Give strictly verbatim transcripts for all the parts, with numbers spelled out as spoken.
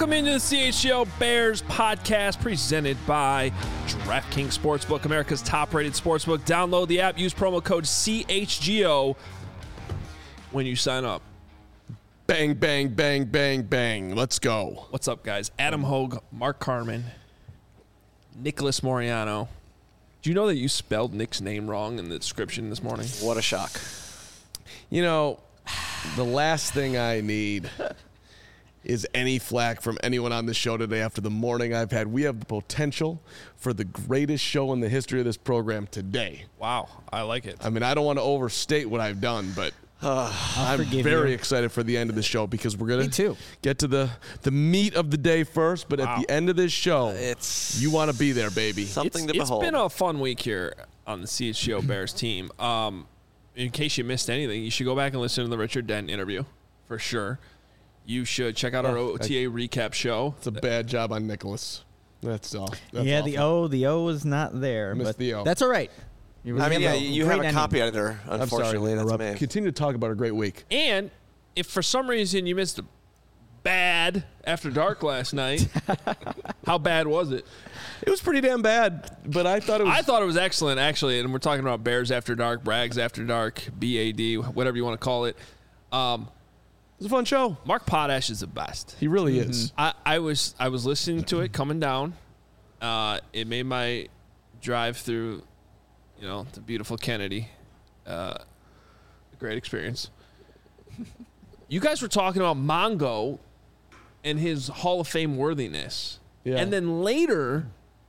Welcome into the C H G O Bears podcast presented by DraftKings Sportsbook, America's top-rated sportsbook. Download the app. Use promo code C H G O when you sign up. Bang, bang, bang, bang, bang. Let's go. What's up, guys? Adam Hogue, Mark Carman, Nicholas Moriano. Do you know that you spelled Nick's name wrong in the description this morning? What a shock. You know, the last thing I need is any flack from anyone on the show today after the morning I've had. We have the potential for the greatest show in the history of this program today. Wow, I like it. I mean, I don't want to overstate what I've done, but Uh, I'm very you. excited for the end of the show because we're going to get to the, the meat of the day first. But wow. at the end of this show, it's you want to be there, baby. Something it's, to behold. It's been a fun week here on the C H G O Bears team. Um, in case you missed anything, you should go back and listen to the Richard Dent interview for sure. You should check out our O T A recap show. It's a bad job on Nicholas. That's all. That's yeah, awful. the O, the O is not there. Missed but the O. That's all right. You I mean, yeah, you have a ending. copy editor, unfortunately. I'm sorry, that's me. Continue to talk about a great week. And if for some reason you missed a bad After Dark last night, how bad was it? It was pretty damn bad, but I thought it was... I thought it was excellent, actually, and we're talking about Bears After Dark, Brags After Dark, B A D, whatever you want to call it. Um, it was a fun show. Mark Potash is the best. He really mm-hmm. is. I, I was I was listening to it coming down. Uh, it made my drive through, you know, the beautiful Kennedy uh, a great experience. You guys were talking about Mongo and his Hall of Fame worthiness. Yeah. And then later,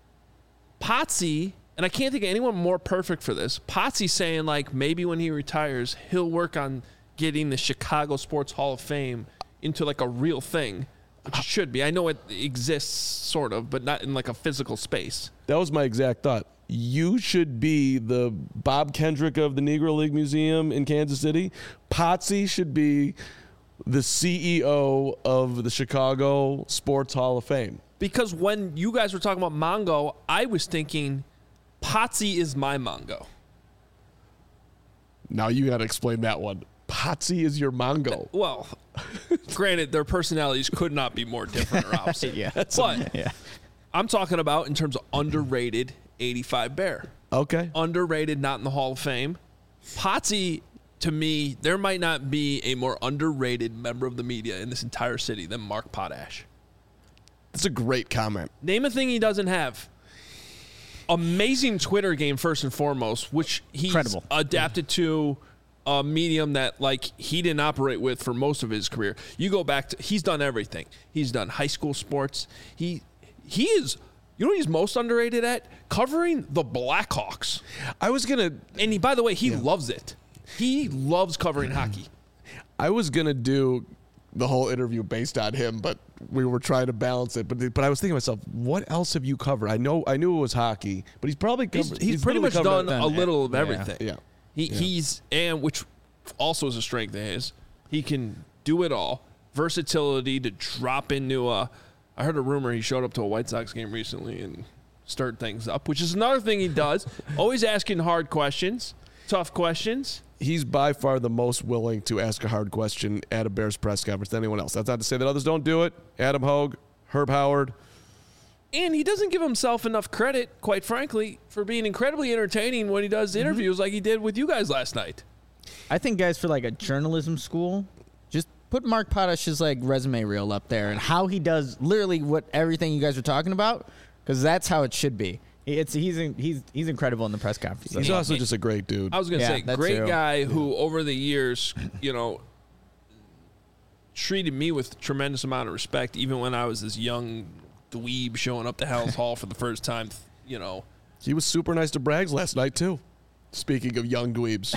Potsy, and I can't think of anyone more perfect for this, Potsy saying, like, maybe when he retires, he'll work on getting the Chicago Sports Hall of Fame into, like, a real thing, which it should be. I know it exists, sort of, but not in, like, a physical space. That was my exact thought. You should be the Bob Kendrick of the Negro League Museum in Kansas City. Potsy should be the C E O of the Chicago Sports Hall of Fame. Because when you guys were talking about Mongo, I was thinking Potsy is my Mongo. Now you got to explain that one. Potsy is your Mongo. Well, granted, their personalities could not be more different or opposite. yeah. But yeah. I'm talking about in terms of underrated eighty-five Bear. Okay. Underrated, not in the Hall of Fame. Potsy, to me, there might not be a more underrated member of the media in this entire city than Mark Potash. That's a great comment. Name a thing he doesn't have. Amazing Twitter game, first and foremost, which he's Incredible. adapted to a medium that, like, he didn't operate with for most of his career. You go back to, he's done everything. He's done high school sports. He he is, you know what he's most underrated at? Covering the Blackhawks. I was going to... And he, by the way, he yeah. loves it. He loves covering hockey. I was going to do the whole interview based on him, but we were trying to balance it. But but I was thinking to myself, what else have you covered? I know I knew it was hockey, but he's probably covered, he's, he's, he's pretty much done it. a little of everything. Yeah. He yeah. he's and which also is a strength of his. He can do it all. Versatility to drop into a. I heard a rumor he showed up to a White Sox game recently and stirred things up, which is another thing he does. Always asking hard questions, tough questions. He's by far the most willing to ask a hard question at a Bears press conference than anyone else. That's not to say that others don't do it. Adam Hogue, Herb Howard. And he doesn't give himself enough credit, quite frankly, for being incredibly entertaining when he does interviews mm-hmm. like he did with you guys last night. I think, guys, for like a journalism school, just put Mark Potash's like resume reel up there and how he does literally what everything you guys are talking about, because that's how it should be. It's he's he's he's incredible in the press conference. He's also just a great dude. I was gonna yeah, say great too. guy who over the years, you know, treated me with tremendous amount of respect, even when I was this young dweeb showing up to Hell's Hall for the first time. You know, he was super nice to Braggs last night too. Speaking of young dweebs.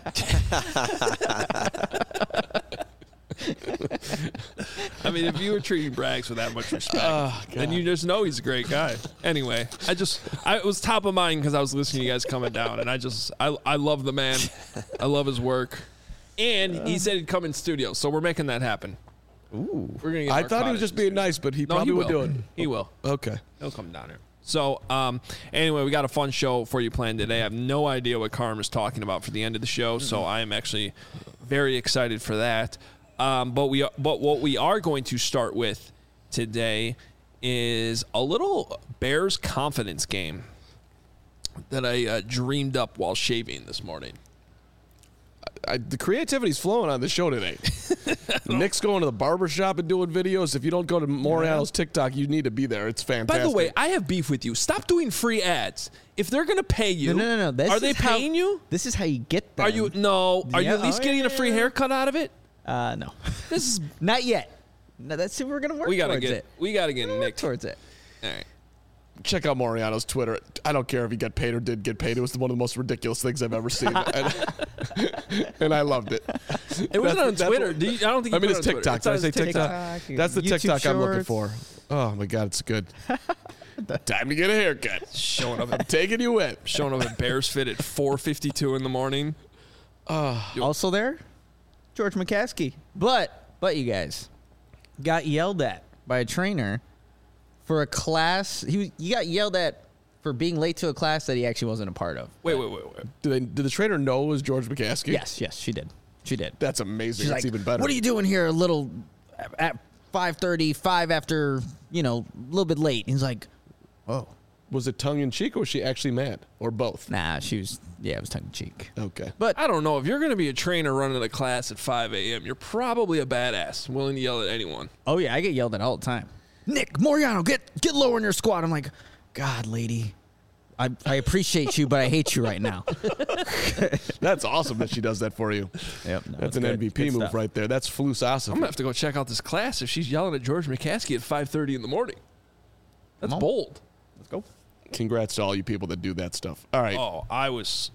I mean, if you were treating Braggs with that much respect, oh, then you just know he's a great guy. Anyway, I just, I, it was top of mind because I was listening to you guys coming down, and I just, I, I love the man. I love his work. And he said he'd come in studio, so we're making that happen. Ooh. We're gonna get I Mark thought Potash he was just being nice, but he no, probably he would do it. He will. Okay. He'll come down here. So, um, anyway, we got a fun show for you planned today. I have no idea what Carm is talking about for the end of the show, so I am actually very excited for that. Um, but we, but what we are going to start with today is a little Bears confidence game that I uh, dreamed up while shaving this morning. I, the creativity's flowing on the show today. Nick's going to the barbershop and doing videos. If you don't go to Moriano's TikTok, you need to be there. It's fantastic. By the way, I have beef with you. Stop doing free ads. If they're going to pay you, No, no, no, no. This are they is how- paying you? This is how you get them. Are you no? Are you Yeah, at least oh, getting yeah, a free yeah. haircut out of it? Uh, no. This is Not yet. No, that's we're gonna work we gotta towards get it. we gotta get Work Nick. towards it. All right. check out Moriano's Twitter. I don't care if he got paid or did get paid. It was one of the most ridiculous things I've ever seen, and, and I loved it. It wasn't on That's Twitter. what- Do you, I don't think. I You mean, put it's it on TikTok. Twitter. Did I say It's on his TikTok? TikTok, That's the YouTube TikTok I'm looking Shorts. for. Oh my God, it's good. Time to get a haircut. Showing up, I'm at, taking you in. showing up at Bears Fit at four fifty-two in the morning. Also there, George McCaskey. But but you guys got yelled at by a trainer for a class. He was, you got yelled at for being late to a class that he actually wasn't a part of. Wait, wait, wait, wait. Did, they, did the trainer know it was George McCaskey? Yes, yes, she did. She did. That's amazing. She's That's like, even better. What are you doing here? A little at five thirty, five after, you know, a little bit late. He's like, oh, Was it tongue in cheek or was she actually mad? Or both? nah. She was, yeah, it was tongue in cheek. Okay. But I don't know. If you're going to be a trainer running a class at five a.m., you're probably a badass, willing to yell at anyone. oh yeah, I get yelled at all the time. Nick Moriano, get get lower in your squat. I'm like, God, lady, I I appreciate you, but I hate you right now. That's awesome that she does that for you. Yep, no, That's it's an good. M V P Good move stuff. right there. That's I'm flusosophy. going to have to go check out this class if she's yelling at George McCaskey at five thirty in the morning. That's Come on. bold. Let's go. Congrats to all you people that do that stuff. All right. Oh, I was.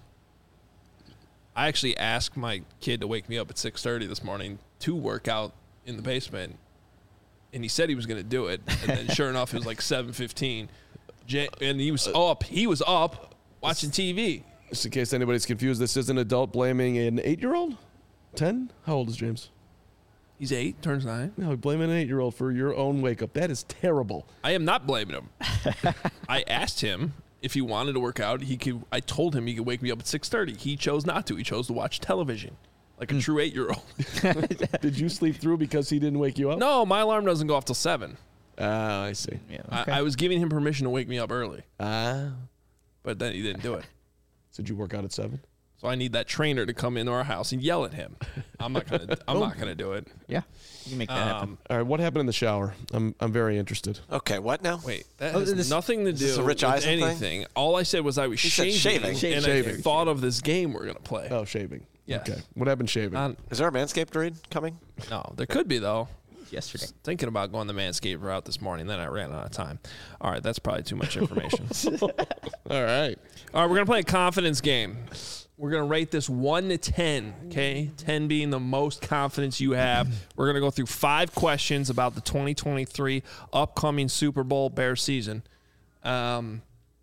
I actually asked my kid to wake me up at six thirty this morning to work out in the basement, and he said he was going to do it. And then, sure enough, it was like seven fifteen, and he was up. He was up watching T V. Just in case anybody's confused, this is an adult blaming an eight-year-old? Ten? How old is James? He's eight, turns nine. No, blaming an eight-year-old for your own wake-up. That is terrible. I am not blaming him. I asked him if he wanted to work out. He could. I told him he could wake me up at six thirty. He chose not to. He chose to watch television, like a true eight-year-old. Did you sleep through because he didn't wake you up? No, my alarm doesn't go off till seven. Ah, I see. Yeah. I, I was giving him permission to wake me up early, Ah. but then he didn't do it. So did you work out at seven? So I need that trainer to come into our house and yell at him. I'm not gonna. I'm not gonna do it. Yeah, you can make that happen. Um, All right, what happened in the shower? I'm I'm very interested. Okay, what now? wait, that Oh, has this- nothing to do this a Rich with Eisen thing? anything. All I said was I was said shaving, shaving. and Shaving. I thought of this game we're gonna play. Oh, shaving. Yes. Okay. What happened shaving? Um, Is there a Manscaped read coming? no, there could be though. Yesterday. Thinking about going the Manscaped route this morning, then I ran out of time. All right, that's probably too much information. All right. All right, we're gonna play a confidence game. We're gonna rate this one to ten. Okay, ten being the most confidence you have. We're gonna go through five questions about the twenty twenty-three upcoming Super Bowl Bears season, um,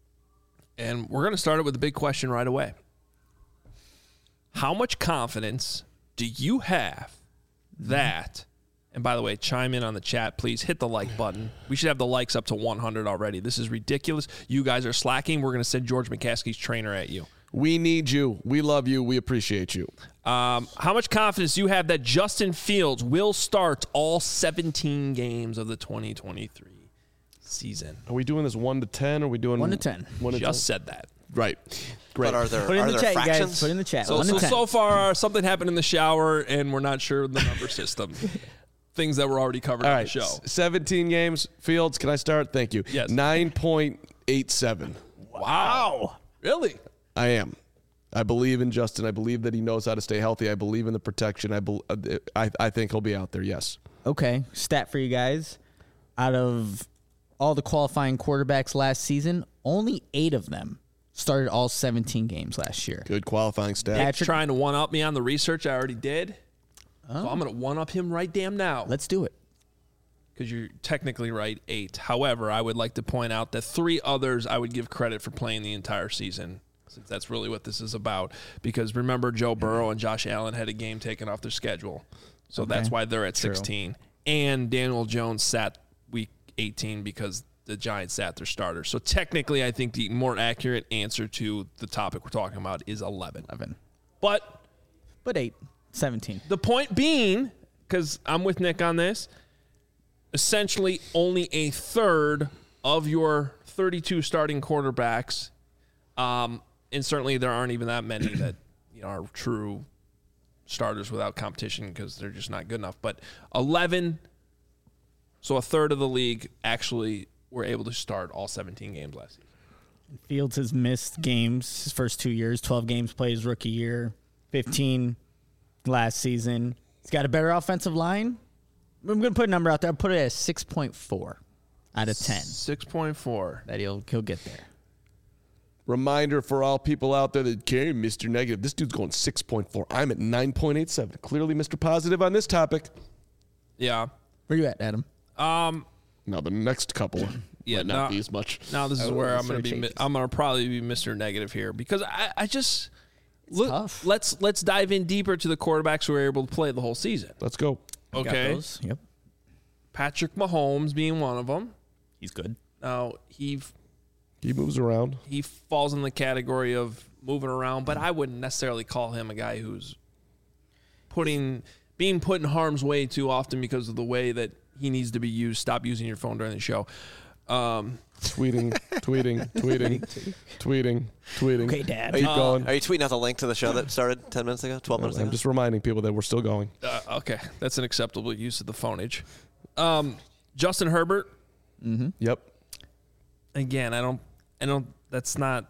and we're gonna start it with a big question right away. How much confidence do you have that? And by the way, chime in on the chat, please. Hit the like button. We should have the likes up to one hundred already. This is ridiculous. You guys are slacking. We're going to send George McCaskey's trainer at you. We need you. We love you. We appreciate you. Um, how much confidence do you have that Justin Fields will start all seventeen games of the twenty twenty-three season? Are we doing this one to ten? Or are we doing One to ten. One to Just said that. ten? Right. Great. But are there Put it in are the there chat, you fractions? guys. Put it in the chat. So, One so, to ten. so far, something happened in the shower, and we're not sure of the number system. Things that were already covered All on right. the show. s- seventeen games. Fields, can I start? Thank you. Yes. nine point eight seven. Wow. Really? I am. I believe in Justin. I believe that he knows how to stay healthy. I believe in the protection. I, bel uh, I, I think he'll be out there, yes. Okay, stat for you guys. Out of all the qualifying quarterbacks last season, only eight of them started all seventeen games last year. Good qualifying stat. Patrick- Trying to one-up me on the research I already did. So I'm going to one-up him right damn now. Let's do it. Because you're technically right, eight. However, I would like to point out that three others I would give credit for playing the entire season, since that's really what this is about. Because remember, Joe Burrow and Josh Allen had a game taken off their schedule. So Okay. that's why they're at True. sixteen. And Daniel Jones sat week eighteen because the Giants sat their starters. So technically, I think the more accurate answer to the topic we're talking about is eleven. eleven. But But eight. seventeen. the point being, because I'm with Nick on this, essentially only a third of your thirty-two starting quarterbacks, um, and certainly there aren't even that many that you know are true starters without competition because they're just not good enough. But eleven, so a third of the league actually were able to start all seventeen games last season. Fields has missed games his first two years, twelve games played his rookie year, fifteen last season. He's got a better offensive line. I'm going to put a number out there. I'll put it at six point four out of ten. six point four. That he'll, he'll get there. Reminder for all people out there that care, Mister Negative, this dude's going six point four. I'm at nine point eight seven. Clearly Mister Positive on this topic. Yeah. Where you at, Adam? Um. Now the next couple Yeah, might not now- be as much. Now this is Oh, where I'm Mister going to be. mi- Chase. I'm going to probably be Mister Negative here because I, I just look. tough. Let's let's dive in deeper to the quarterbacks who were able to play the whole season. Let's go. Got Okay, those? Yep. Patrick Mahomes being one of them. He's good. Now he He moves around. he falls in the category of moving around, but I wouldn't necessarily call him a guy who's putting being put in harm's way too often because of the way that he needs to be used. Stop using your phone during the show. Um, Tweeting, tweeting, tweeting, tweeting, tweeting. Okay, Dad. Are you, Keep going. are you tweeting out the link to the show that started ten minutes ago, twelve minutes I'm ago? just reminding people that we're still going. uh, okay, that's an acceptable use of the phoneage. Um, Justin Herbert. Yep. Again, I don't, I don't. That's not.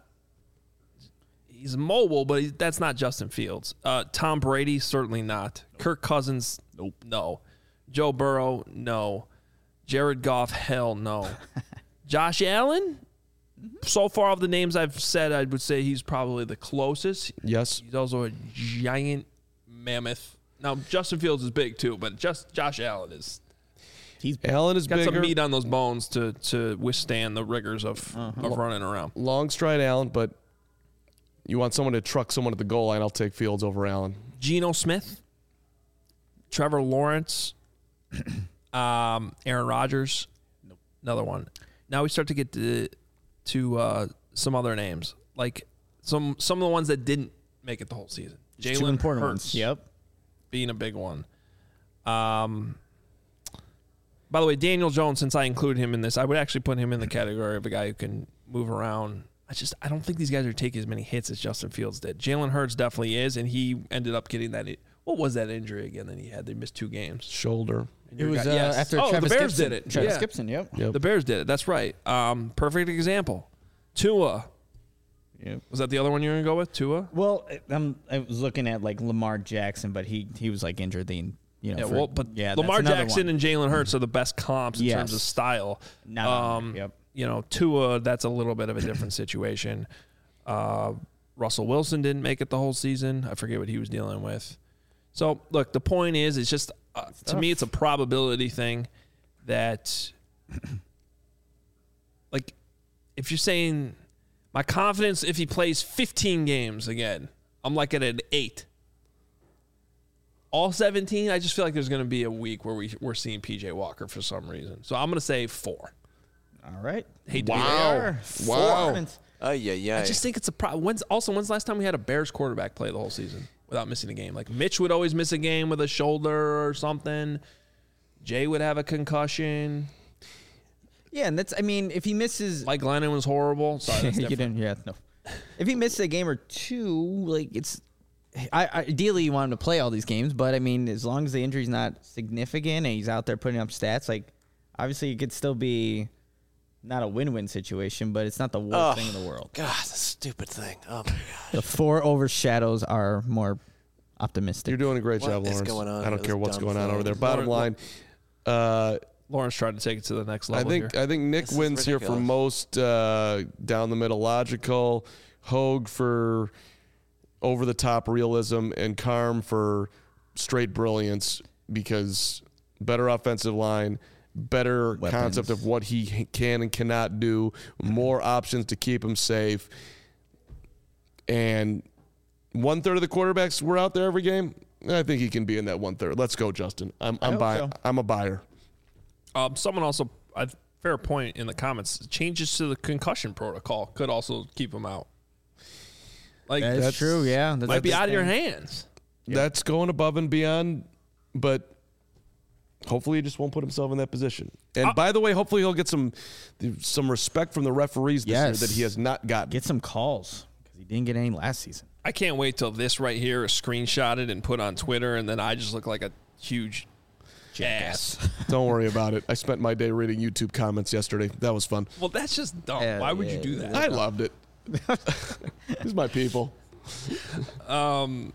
He's mobile, but he, that's not Justin Fields. Uh, Tom Brady, certainly not. Kirk Cousins, nope, no. Joe Burrow, no. Jared Goff, hell no. Josh Allen, so far of the names I've said, I would say he's probably the closest. Yes. He's also a giant mammoth. Now Justin Fields is big too, but just Josh Allen is He's Allen is got bigger. some meat on those bones to to withstand the rigors of of running around. Long stride Allen, but you want someone to truck someone at the goal line, I'll take Fields over Allen. Geno Smith, Trevor Lawrence, um, Aaron Rodgers, another one. Now we start to get to to uh, some other names, like some some of the ones that didn't make it the whole season. two Jalen important Hurts, ones. Yep. being a big one. Um. By the way, Daniel Jones, since I included him in this, I would actually put him in the category of a guy who can move around. I just I don't think these guys are taking as many hits as Justin Fields did. Jalen Hurts definitely is, and he ended up getting that. What was that injury again that he had? They missed two games. Shoulder. And It your was guy- uh, yes. after oh, Travis the Bears Gibson. did it. Travis Yeah. Gibson, yep. Yep. The Bears did it. That's right. Um, perfect example. Tua. Yep. Was that the other one you were going to go with? Tua? Well, I'm, I was looking at like Lamar Jackson, but he he was like injured the you know. Yeah, for- well, but yeah, Lamar that's another Jackson one. and Jalen Hurts are the best comps in Yes. terms of style. Not on Um, there, yep. You know, Tua, that's a little bit of a different situation. Uh, Russell Wilson didn't make it the whole season. I forget what he was dealing with. So, look, the point is, it's just, uh, to me, it's a probability thing that, like, if you're saying my confidence, if he plays fifteen games again, I'm like at an eight. All seventeen, I just feel like there's going to be a week where we, we're seeing P J Walker for some reason. So I'm going to say four. All right. Hate to be Wow. there. Wow. Oh, yeah, yeah. I just think it's a problem. When's also when's the last time we had a Bears quarterback play the whole season without missing a game? Like Mitch would always miss a game with a shoulder or something. Jay would have a concussion. Yeah, and that's I mean, if he misses, Mike Glennon was horrible. Sorry, that's you different. didn't. Yeah, no. If he misses a game or two, like it's, I, I ideally you want him to play all these games, but I mean, as long as the injury's not significant and he's out there putting up stats, like obviously it could still be not a win-win situation, but it's not the worst Oh, thing in the world. God, the stupid thing. Oh, my God. The four overshadows are more optimistic. You're doing a great What job, is Lawrence. going on I don't with care this what's dumb going on thing? over there. Bottom line, Lawrence- uh, Lawrence tried to take it to the next I level think here. I think Nick This is wins here for ridiculous. most uh, down the middle logical, Hogue for over the top realism, and Carm for straight brilliance because better offensive line, better Weapons. concept of what he can and cannot do, more options to keep him safe, and one third of the quarterbacks were out there every game. I think he can be in that one third. Let's go, Justin. I'm I'm hope buying. so. I'm a buyer. Um, someone also, a fair point in the comments, changes to the concussion protocol could also keep him out. Like, That's, That's- true. Yeah, that's might a be big out of your thing. hands. That's going above and beyond, but hopefully he just won't put himself in that position. And uh, by the way, hopefully he'll get some some respect from the referees this yes. year that he has not gotten. Get some calls because he didn't get any last season. I can't wait till this right here is screenshotted and put on Twitter, and then I just look like a huge ass. Don't worry about it. I spent my day reading YouTube comments yesterday. That was fun. Well, that's just dumb. Yeah, Why would yeah, you do that? I loved it. These are my people. Um,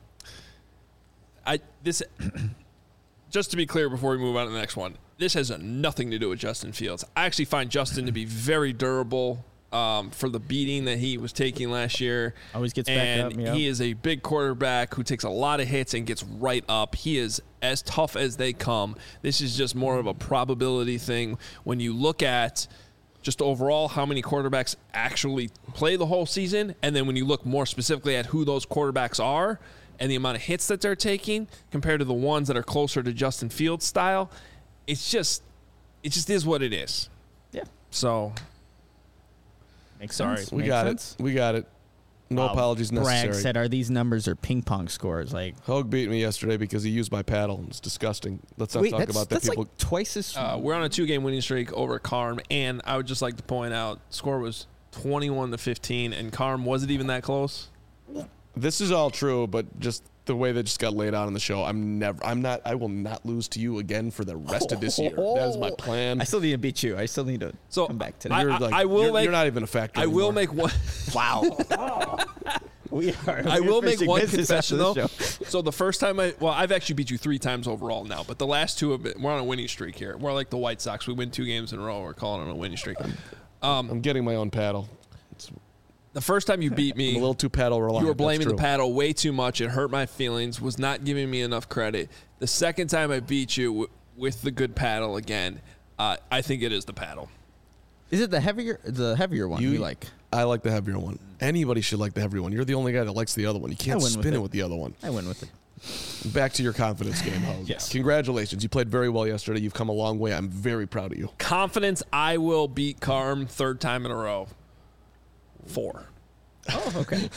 I this just to be clear before we move on to the next one, this has nothing to do with Justin Fields. I actually find Justin to be very durable um, for the beating that he was taking last year. Always gets back and up. Yeah. He is a big quarterback who takes a lot of hits and gets right up. He is as tough as they come. This is just more of a probability thing when you look at just overall how many quarterbacks actually play the whole season, and then when you look more specifically at who those quarterbacks are and the amount of hits that they're taking compared to the ones that are closer to Justin Fields' style, it's just it just is what it is. Yeah. So Makes Sorry. sense. We Makes got sense. it. We got it. No Wow. apologies necessary. Bragg said, "Are these numbers or ping pong scores?" Like, Hogue beat me yesterday because he used my paddle. It's disgusting. Let's not wait, talk that's, about that. that's People. like twice as. uh, we're on a two-game winning streak over Carm, and I would just like to point out score was twenty-one to fifteen, and Carm wasn't even that close. This is all true, but just the way that just got laid out on the show, I'm never. I'm not. I will not lose to you again for the rest of this year. That is my plan. I still need to beat you. I still need to So come back today. I- You're I- like, I will you're, make- you're not even a factor. I will anymore. make one. wow. we are. I we're will make finishing one business confession after though. this show. So the first time I, well, I've actually beat you three times overall now, but the last two have been, we're on a winning streak here. We're like the White Sox. We win two games in a row. We're calling it a winning streak. Um, I'm getting my own paddle. It's the first time you beat I'm me, a little too paddle reliant. you were That's blaming the true. paddle way too much. It hurt my feelings. Was not giving me enough credit. The second time I beat you w- with the good paddle again, uh, I think it is the paddle. Is it the heavier, the heavier one you, You- like? I like the heavier one. Anybody should like the heavier one. You're the only guy that likes the other one. You can't I win with spin it it. with the other one. I win with it. Back to your confidence game, Hogue. Yes. Congratulations. You played very well yesterday. You've come a long way. I'm very proud of you. Confidence, I will beat Carm third time in a row. Four. Oh, okay.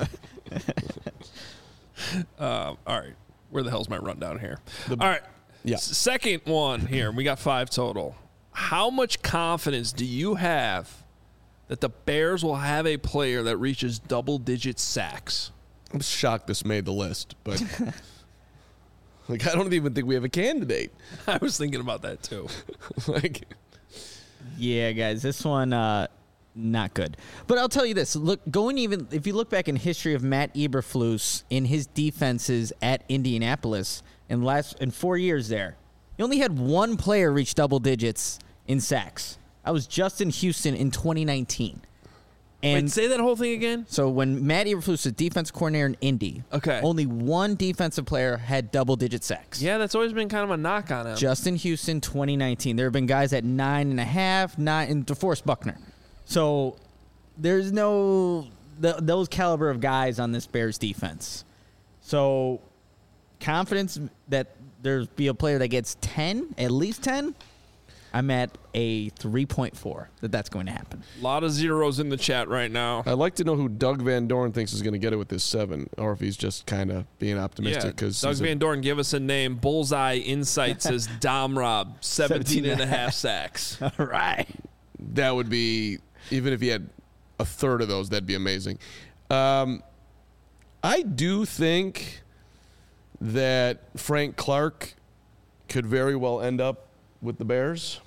Um, all right. Where the hell's my rundown here? The- all right. Yeah. S- second one here. We got five total. How much confidence do you have that the Bears will have a player that reaches double-digit sacks? I'm shocked this made the list, but like I don't even think we have a candidate. I was thinking about that too. like Yeah, guys, this one uh, not good. But I'll tell you this: look, going even if you look back in history of Matt Eberflus in his defenses at Indianapolis in last in four years there, he only had one player reach double digits in sacks. That was Justin Houston in twenty nineteen. And Wait, say that whole thing again? so when Matt Eberflus was defense coordinator in Indy, Okay. only one defensive player had double digit sacks. Yeah, that's always been kind of a knock on him. Justin Houston, twenty nineteen. There have been guys at nine and a half, nine, and DeForest Buckner. So there's no th- those caliber of guys on this Bears defense. So confidence that there's be a player that gets ten, at least ten. I'm at a three point four that that's going to happen. A lot of zeros in the chat right now. I'd like to know who Doug Van Dorn thinks is going to get it with this seven, or if he's just kind of being Yeah, optimistic. Because Doug Van Dorn, give us a name. Bullseye Insight says Dom Rob, seventeen and a half sacks. All right. that would be, even if he had a third of those, that'd be amazing. Um, I do think that Frank Clark could very well end up with the Bears.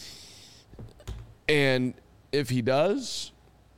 And if he does,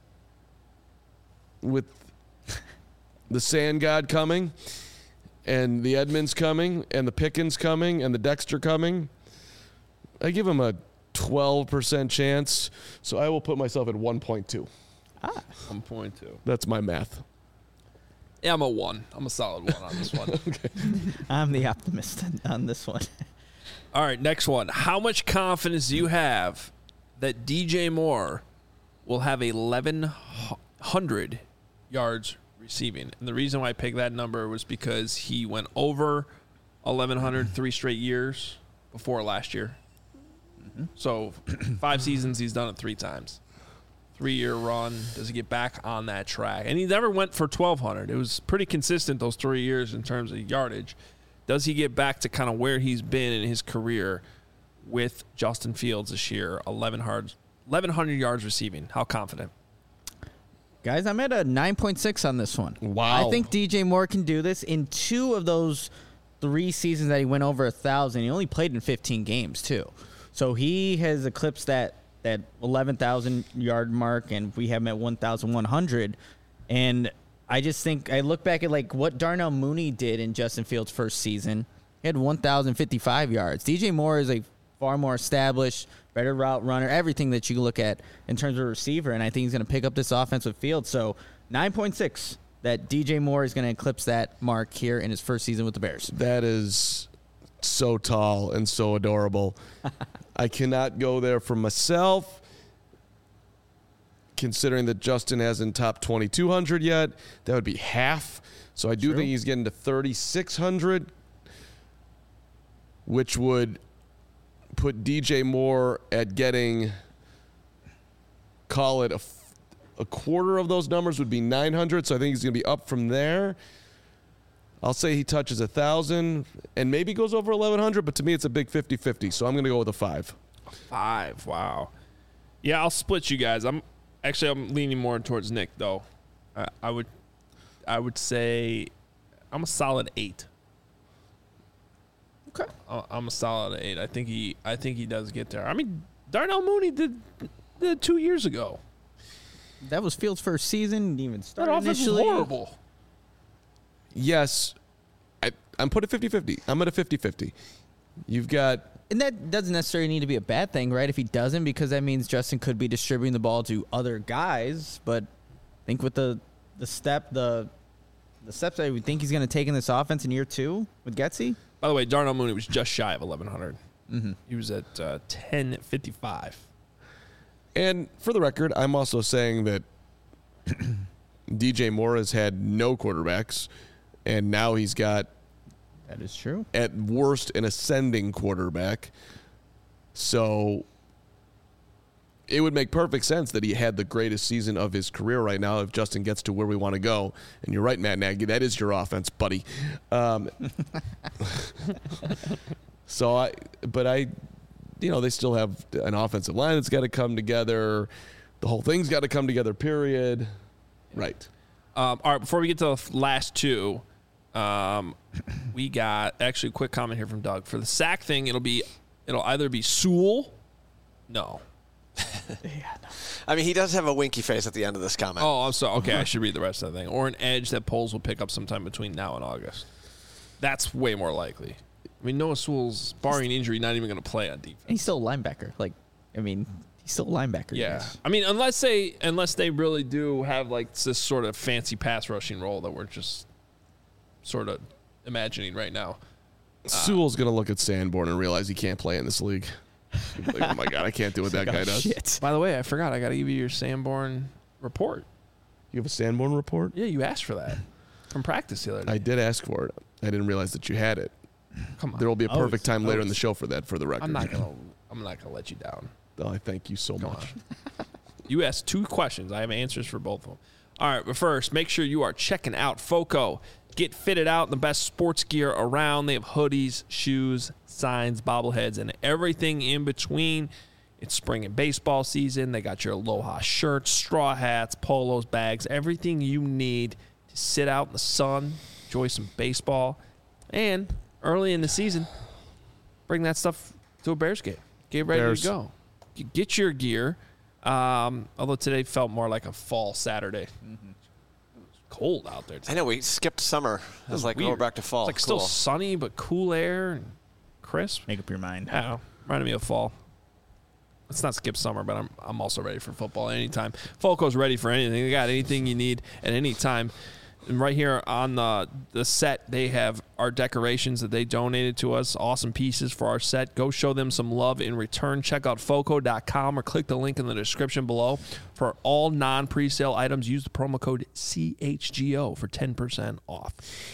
with the Sand God coming, and the Edmonds coming, and the Pickens coming, and the Dexter coming, I give him a twelve percent chance. So I will put myself at one point two. one point two. That's my math. Yeah, I'm a one. I'm a solid one on this one. I'm the optimist on this one. All right, next one. How much confidence do you have that D J Moore will have eleven hundred yards receiving? And the reason why I picked that number was because he went over eleven hundred three straight years before last year. Mm-hmm. So five seasons, he's done it three times. Three-year run. Does he get back on that track? And he never went for twelve hundred. It was pretty consistent those three years in terms of yardage. Does he get back to kind of where he's been in his career? with Justin Fields this year, eleven hundred yards receiving. How confident? Guys, I'm at a nine point six on this one. Wow. I think D J Moore can do this. In two of those three seasons that he went over one thousand, he only played in fifteen games, too. So he has eclipsed that, that eleven thousand yard mark, and we have him at one thousand one hundred. And I just think, I look back at like what Darnell Mooney did in Justin Fields' first season. He had one thousand fifty-five yards. D J Moore is a far more established, better route runner, everything that you look at in terms of receiver, and I think he's going to pick up this offensive field. So nine point six, that D J Moore is going to eclipse that mark here in his first season with the Bears. That is so tall and so adorable. I cannot go there for myself, considering that Justin hasn't topped twenty-two hundred yet. That would be half. So I do True. think he's getting to thirty-six hundred, which would put D J Moore at getting, call it a, a quarter of those numbers would be nine hundred. So I think he's going to be up from there. I'll say he touches one thousand and maybe goes over eleven hundred, but to me it's a big fifty-fifty. So I'm going to go with a five. Five. Wow. Yeah, I'll split you guys. I'm actually I'm leaning more towards Nick though. Uh, I would I would say I'm a solid eight. Okay. I- I'm a solid eight. I think he I think he does get there. I mean, Darnell Mooney did did two years ago. That was Fields' first season. Didn't even That start offense was initially. horrible. Yes, I, I'm put at fifty-fifty. I'm at a fifty-fifty. You've got And that doesn't necessarily need to be a bad thing, right? If he doesn't, because that means Justin could be distributing the ball to other guys. But I think with the the step, the the steps that we think he's going to take in this offense in year two with Getsy. By the way, Darnell Mooney was just shy of eleven hundred. Mm-hmm. He was at uh, ten fifty-five. And for the record, I'm also saying that D J Moore has had no quarterbacks, and now he's got, That is true. at worst, an ascending quarterback. So it would make perfect sense that he had the greatest season of his career right now if Justin gets to where we want to go. And you're right, Matt Nagy, that is your offense, buddy. Um, so I, but I, you know, they still have an offensive line that's got to come together. The whole thing's got to come together, period. Right. Um, all right, before we get to the last two, um, we got actually a quick comment here from Doug. For the sack thing, it'll be it'll either be Sewell. No. I mean, he does have a winky face at the end of this comment. Oh, I'm sorry. Okay, I should read the rest of the thing. Or an edge that Poles will pick up sometime between now and August. That's way more likely. I mean, Noah Sewell's, barring injury, not even going to play on defense. And he's still a linebacker. Like, I mean, he's still a linebacker. Yeah, guys. I mean, unless they unless they really do have like this sort of fancy pass rushing role that we're just sort of imagining right now. Sewell's going to look at Sanborn and realize he can't play in this league. Like, oh, my God, I can't do what that guy does. Shit. By the way, I forgot. I got to give you your Sanborn report. You have a Sanborn report? Yeah, you asked for that from practice the other day. I did ask for it. I didn't realize that you had it. Come on. There will be a I was- perfect time I later in was- the show for that, for the record. I'm not gonna. I'm not gonna let you down. Oh, I thank you so Come much. on. You asked two questions. I have answers for both of them. All right, but first, make sure you are checking out Foco. Get fitted out in the best sports gear around. They have hoodies, shoes, signs, bobbleheads, and everything in between. It's spring and baseball season. They got your Aloha shirts, straw hats, polos, bags, everything you need to sit out in the sun, enjoy some baseball, and early in the season, bring that stuff to a Bears game. Get ready Bears. to go. Get your gear. Um, although today felt more like a fall Saturday. Mm-hmm. It was cold out there today. I know, we skipped summer. It was like, oh, we're weird. back to fall. It's like still Cool. sunny, but cool air and crisp. Make up your mind. I don't know. Reminded me of fall. Let's not skip summer, but I'm I'm also ready for football anytime. Foco's ready for anything. They got anything you need at any time. And right here on the the set, they have our decorations that they donated to us. Awesome pieces for our set. Go show them some love in return. Check out foco dot com or click the link in the description below. For all non-presale items, use the promo code C H G O for ten percent off.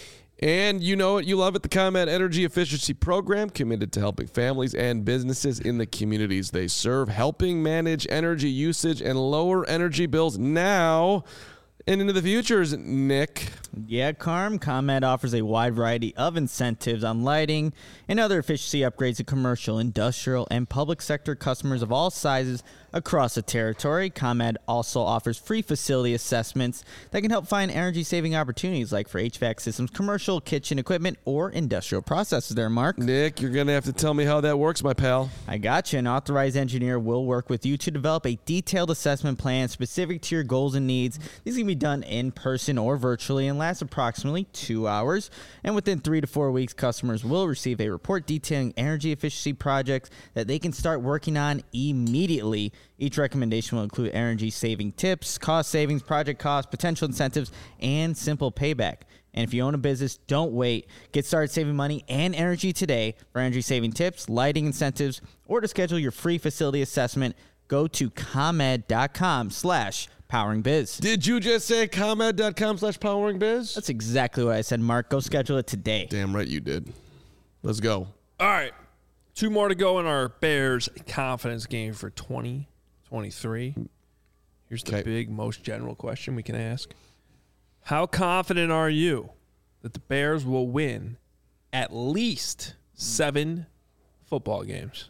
And you know it, you love it, the ComEd Energy Efficiency Program, committed to helping families and businesses in the communities they serve, helping manage energy usage and lower energy bills now. And into the futures, Nick. Yeah, Carm. ComEd offers a wide variety of incentives on lighting and other efficiency upgrades to commercial, industrial, and public sector customers of all sizes across the territory. ComEd also offers free facility assessments that can help find energy-saving opportunities like for H V A C systems, commercial kitchen equipment, or industrial processes there, Mark. Nick, you're going to have to tell me how that works, my pal. I got you. An authorized engineer will work with you to develop a detailed assessment plan specific to your goals and needs. These can be done in person or virtually and last approximately two hours. And within three to four weeks, customers will receive a report detailing energy efficiency projects that they can start working on immediately. Each recommendation will include energy saving tips, cost savings, project costs, potential incentives, and simple payback. And if you own a business, don't wait. Get started saving money and energy today. For energy saving tips, lighting incentives, or to schedule your free facility assessment, go to ComEd.com slash powering biz. Did you just say ComEd.com slash powering biz? That's exactly what I said, Mark. Go schedule it today. Damn right you did. Let's go. All right. Two more to go in our Bears confidence game for twenty twenty-three. Here's the Okay. big, most general question we can ask. How confident are you that the Bears will win at least seven football games?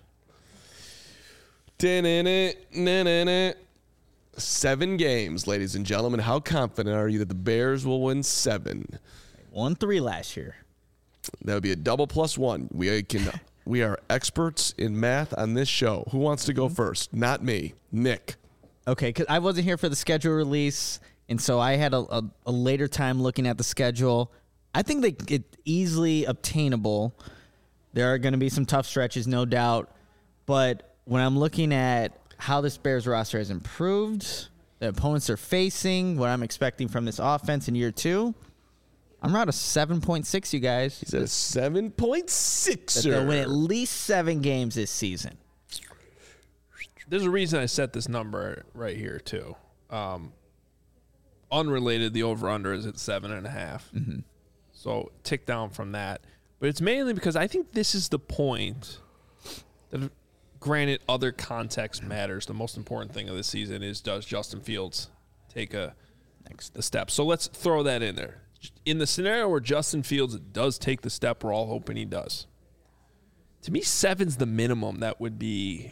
Seven games, ladies and gentlemen. How confident are you that the Bears will win seven? Won three last year. That would be a double plus one. We can. We are experts in math on this show. Who wants to go first? Not me. Nick. Okay, because I wasn't here for the schedule release, and so I had a, a, a later time looking at the schedule. I think that it's easily obtainable. There are going to be some tough stretches, no doubt. But when I'm looking at how this Bears roster has improved, the opponents are facing, what I'm expecting from this offense in year two, I'm around a seven point six, you guys. He's at a seven point six. That they'll win at least seven games this season. There's a reason I set this number right here, too. Um, unrelated, the over-under is at seven and a half. Mm-hmm. So tick down from that. But it's mainly because I think this is the point that, granted, other context matters. The most important thing of this season is, does Justin Fields take a next a step? So let's throw that in there. In the scenario where Justin Fields does take the step we're all hoping he does, to me, seven's the minimum that would be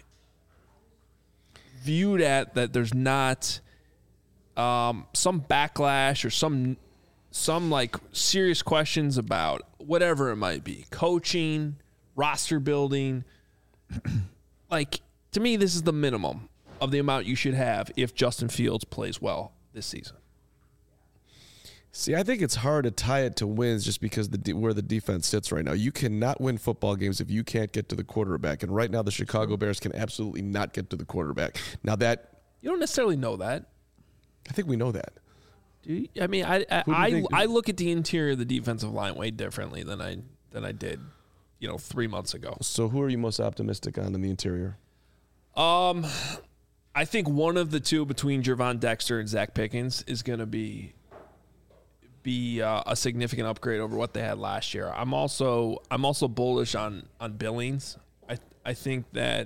viewed at that there's not um, some backlash or some some like serious questions about whatever it might be, coaching, roster building. Like, to me, this is the minimum of the amount you should have if Justin Fields plays well this season. See, I think it's hard to tie it to wins just because the de- where the defense sits right now. You cannot win football games if you can't get to the quarterback. And right now, the Chicago Bears can absolutely not get to the quarterback. Now that You don't necessarily know that. I think we know that. Do you? I mean, I I, Who do you I, think- I look at the interior of the defensive line way differently than I than I did, you know, three months ago. So who are you most optimistic on in the interior? Um, I think one of the two between Gervon Dexter and Zach Pickens is going to be be uh, a significant upgrade over what they had last year. I'm also I'm also bullish on on Billings. I I think that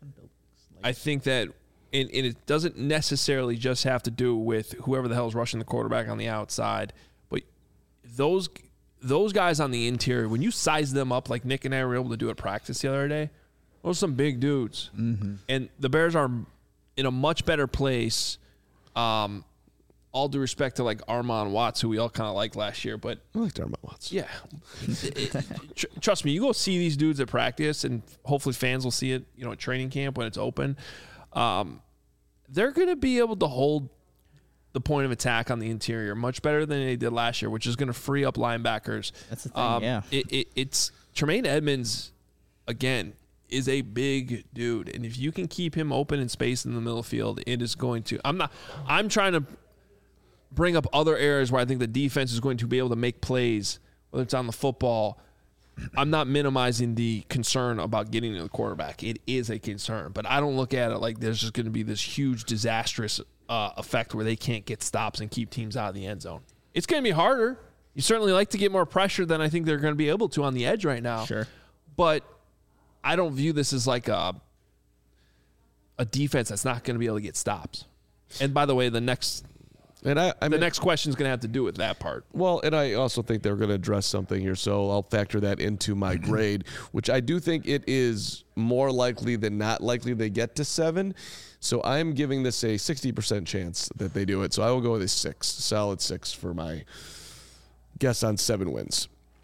I think that and, and it doesn't necessarily just have to do with whoever the hell is rushing the quarterback on the outside, but those those guys on the interior, when you size them up like Nick and I were able to do at practice the other day, those are some big dudes. Mm-hmm. And the Bears are in a much better place. Um, all due respect to like Armon Watts, who we all kind of liked last year, but I like Darmouth Watts. yeah, it, it, tr- trust me, you go see these dudes at practice, and hopefully fans will see it, you know, at training camp when it's open. Um, they're going to be able to hold the point of attack on the interior much better than they did last year, which is going to free up linebackers. That's the thing, Um, yeah. It, it, it's Tremaine Edmonds, again, is a big dude, and if you can keep him open in space in the middle field, it is going to. I'm not. I'm trying to bring up other areas where I think the defense is going to be able to make plays, whether it's on the football. I'm not minimizing the concern about getting to the quarterback. It is a concern, but I don't look at it like there's just going to be this huge disastrous uh, effect where they can't get stops and keep teams out of the end zone. It's going to be harder. You certainly like to get more pressure than I think they're going to be able to on the edge right now. Sure. But I don't view this as like a a defense that's not going to be able to get stops. And by the way, the next And I, I the mean, next question is going to have to do with that part. Well, and I also think they're going to address something here, so I'll factor that into my grade, which I do think it is more likely than not likely they get to seven. So I'm giving this a sixty percent chance that they do it. So I will go with a six, solid six for my guess on seven wins.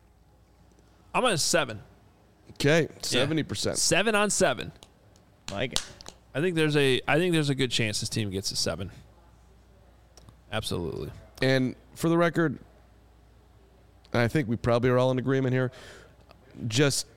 I'm at a seven. Okay, seventy percent. Seven on seven. Like it. I think there's a I think there's a good chance this team gets a seven. Absolutely. And for the record, and I think we probably are all in agreement here, just,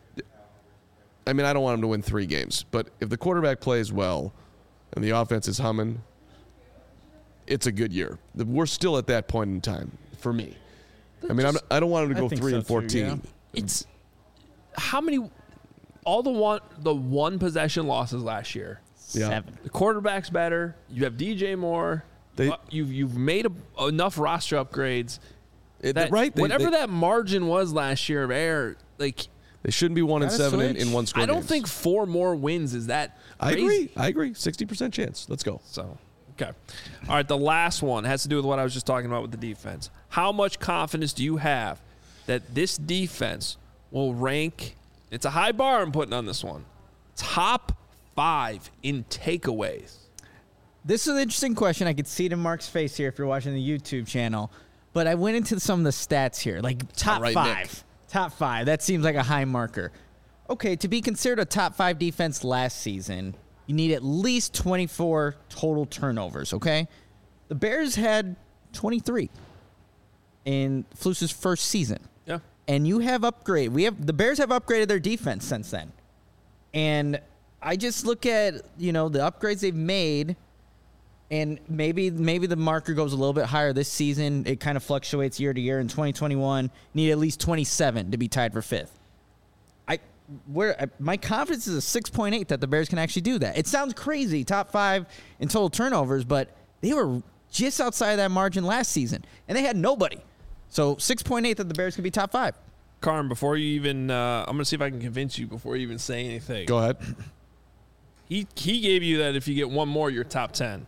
I mean, I don't want them to win three games, but if the quarterback plays well and the offense is humming, it's a good year. We're still at that point in time for me. I mean, I'm, I don't want them to I go think three so and too, fourteen. yeah. It's how many all the one the one possession losses last year. Yeah. Seven. The quarterback's better. You have D J Moore. They- Uh, you've you've made a, enough roster upgrades. It- That, right? They, whatever they, that margin was last year of error, like they shouldn't be one and Gotta seven in, switch. in one score. I don't games. think four more wins is that I crazy. agree. I agree. Sixty percent chance. Let's go. So, okay. All right, the last one has to do with what I was just talking about with the defense. How much confidence do you have that this defense will rank, it's a high bar I'm putting on this one, top five in takeaways? This is an interesting question. I could see it in Mark's face here if you're watching the YouTube channel. But I went into some of the stats here, like top right, five. Nick. Top five. That seems like a high marker. Okay, to be considered a top five defense last season, you need at least twenty-four total turnovers, okay? The Bears had twenty-three in Flus's first season. Yeah. And you have upgrade. We have the Bears have upgraded their defense since then. And I just look at, you know, the upgrades they've made, and maybe maybe the marker goes a little bit higher this season. It kind of fluctuates year to year. In twenty twenty-one, need at least twenty-seven to be tied for fifth. I where I, my confidence is a six point eight that the Bears can actually do that. It sounds crazy, top five in total turnovers, but they were just outside of that margin last season, and they had nobody. So six point eight that the Bears can be top five. Carm, before you even, uh, I'm going to see if I can convince you before you even say anything. Go ahead. He he gave you that if you get one more, you're top ten.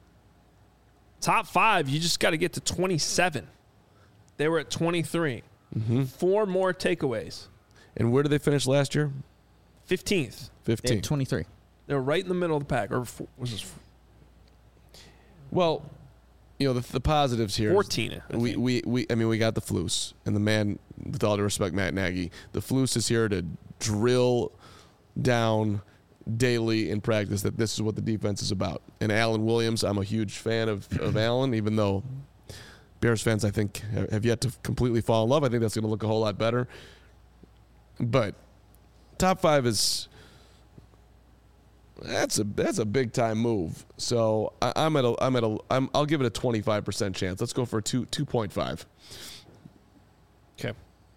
Top five, you just got to get to twenty-seven. They were at twenty-three. Mm-hmm. Four more takeaways. And where did they finish last year? fifteenth. They fifteen. had twenty-three. They were right in the middle of the pack. Or four, was this Well, you know, the, the positives here. is fourteen? I We, think. we, we, I mean, we got the Flus, and the man, with all due respect, Matt Nagy, the Flus is here to drill down daily in practice that this is what the defense is about. And Alan Williams, I'm a huge fan of, of Alan, even though Bears fans, I think, have have yet to completely fall in love. I think that's going to look a whole lot better. But top five is that's a that's a big time move. So I, I'm at a I'm at a I'm, I'll give it a twenty-five percent chance. Let's go for a two two point five. Okay.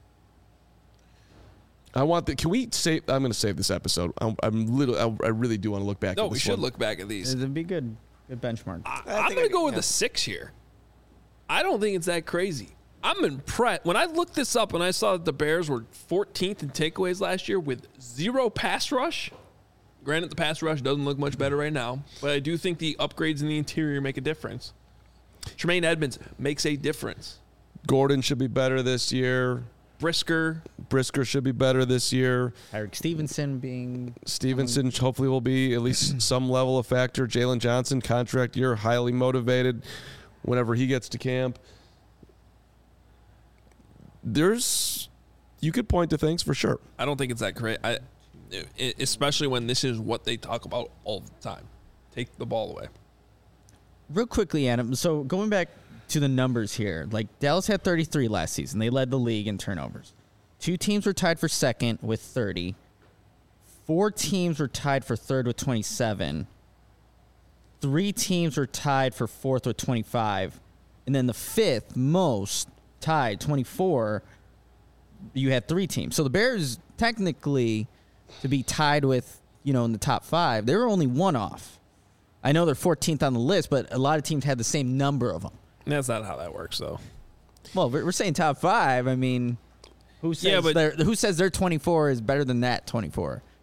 I want the. Can we save? I'm going to save this episode. I'm, I'm little. I, I really do want to look back. No, at we this should one. look back at these. It'd be good. Good benchmark. I, I I'm think going I to go can- with yeah. a six here. I don't think it's that crazy. I'm impressed. When I looked this up and I saw that the Bears were fourteenth in takeaways last year with zero pass rush. Granted, the pass rush doesn't look much better right now, but I do think the upgrades in the interior make a difference. Tremaine Edmonds makes a difference. Gordon should be better this year. Brisker, Brisker should be better this year. Eric Stevenson being Stevenson hopefully will be at least some level of factor. Jalen Johnson, contract year, highly motivated whenever he gets to camp. There's, you could point to things for sure. I don't think it's that great. I, I- especially when this is what they talk about all the time. Take the ball away. real quickly, Adam. So going back to the numbers here, like Dallas had thirty-three last season. They led the league in turnovers. Two teams were tied for second with thirty. Four teams were tied for third with twenty-seven. Three teams were tied for fourth with twenty-five. And then the fifth most tied, twenty-four, you had three teams. So the Bears, technically, to be tied with, you know, in the top five, they were only one off. I know they're fourteenth on the list, but a lot of teams had the same number of them. That's not how that works, though. Well, we're we're saying top five. I mean, who says Yeah, but- their who says their twenty-four is better than that twenty-four?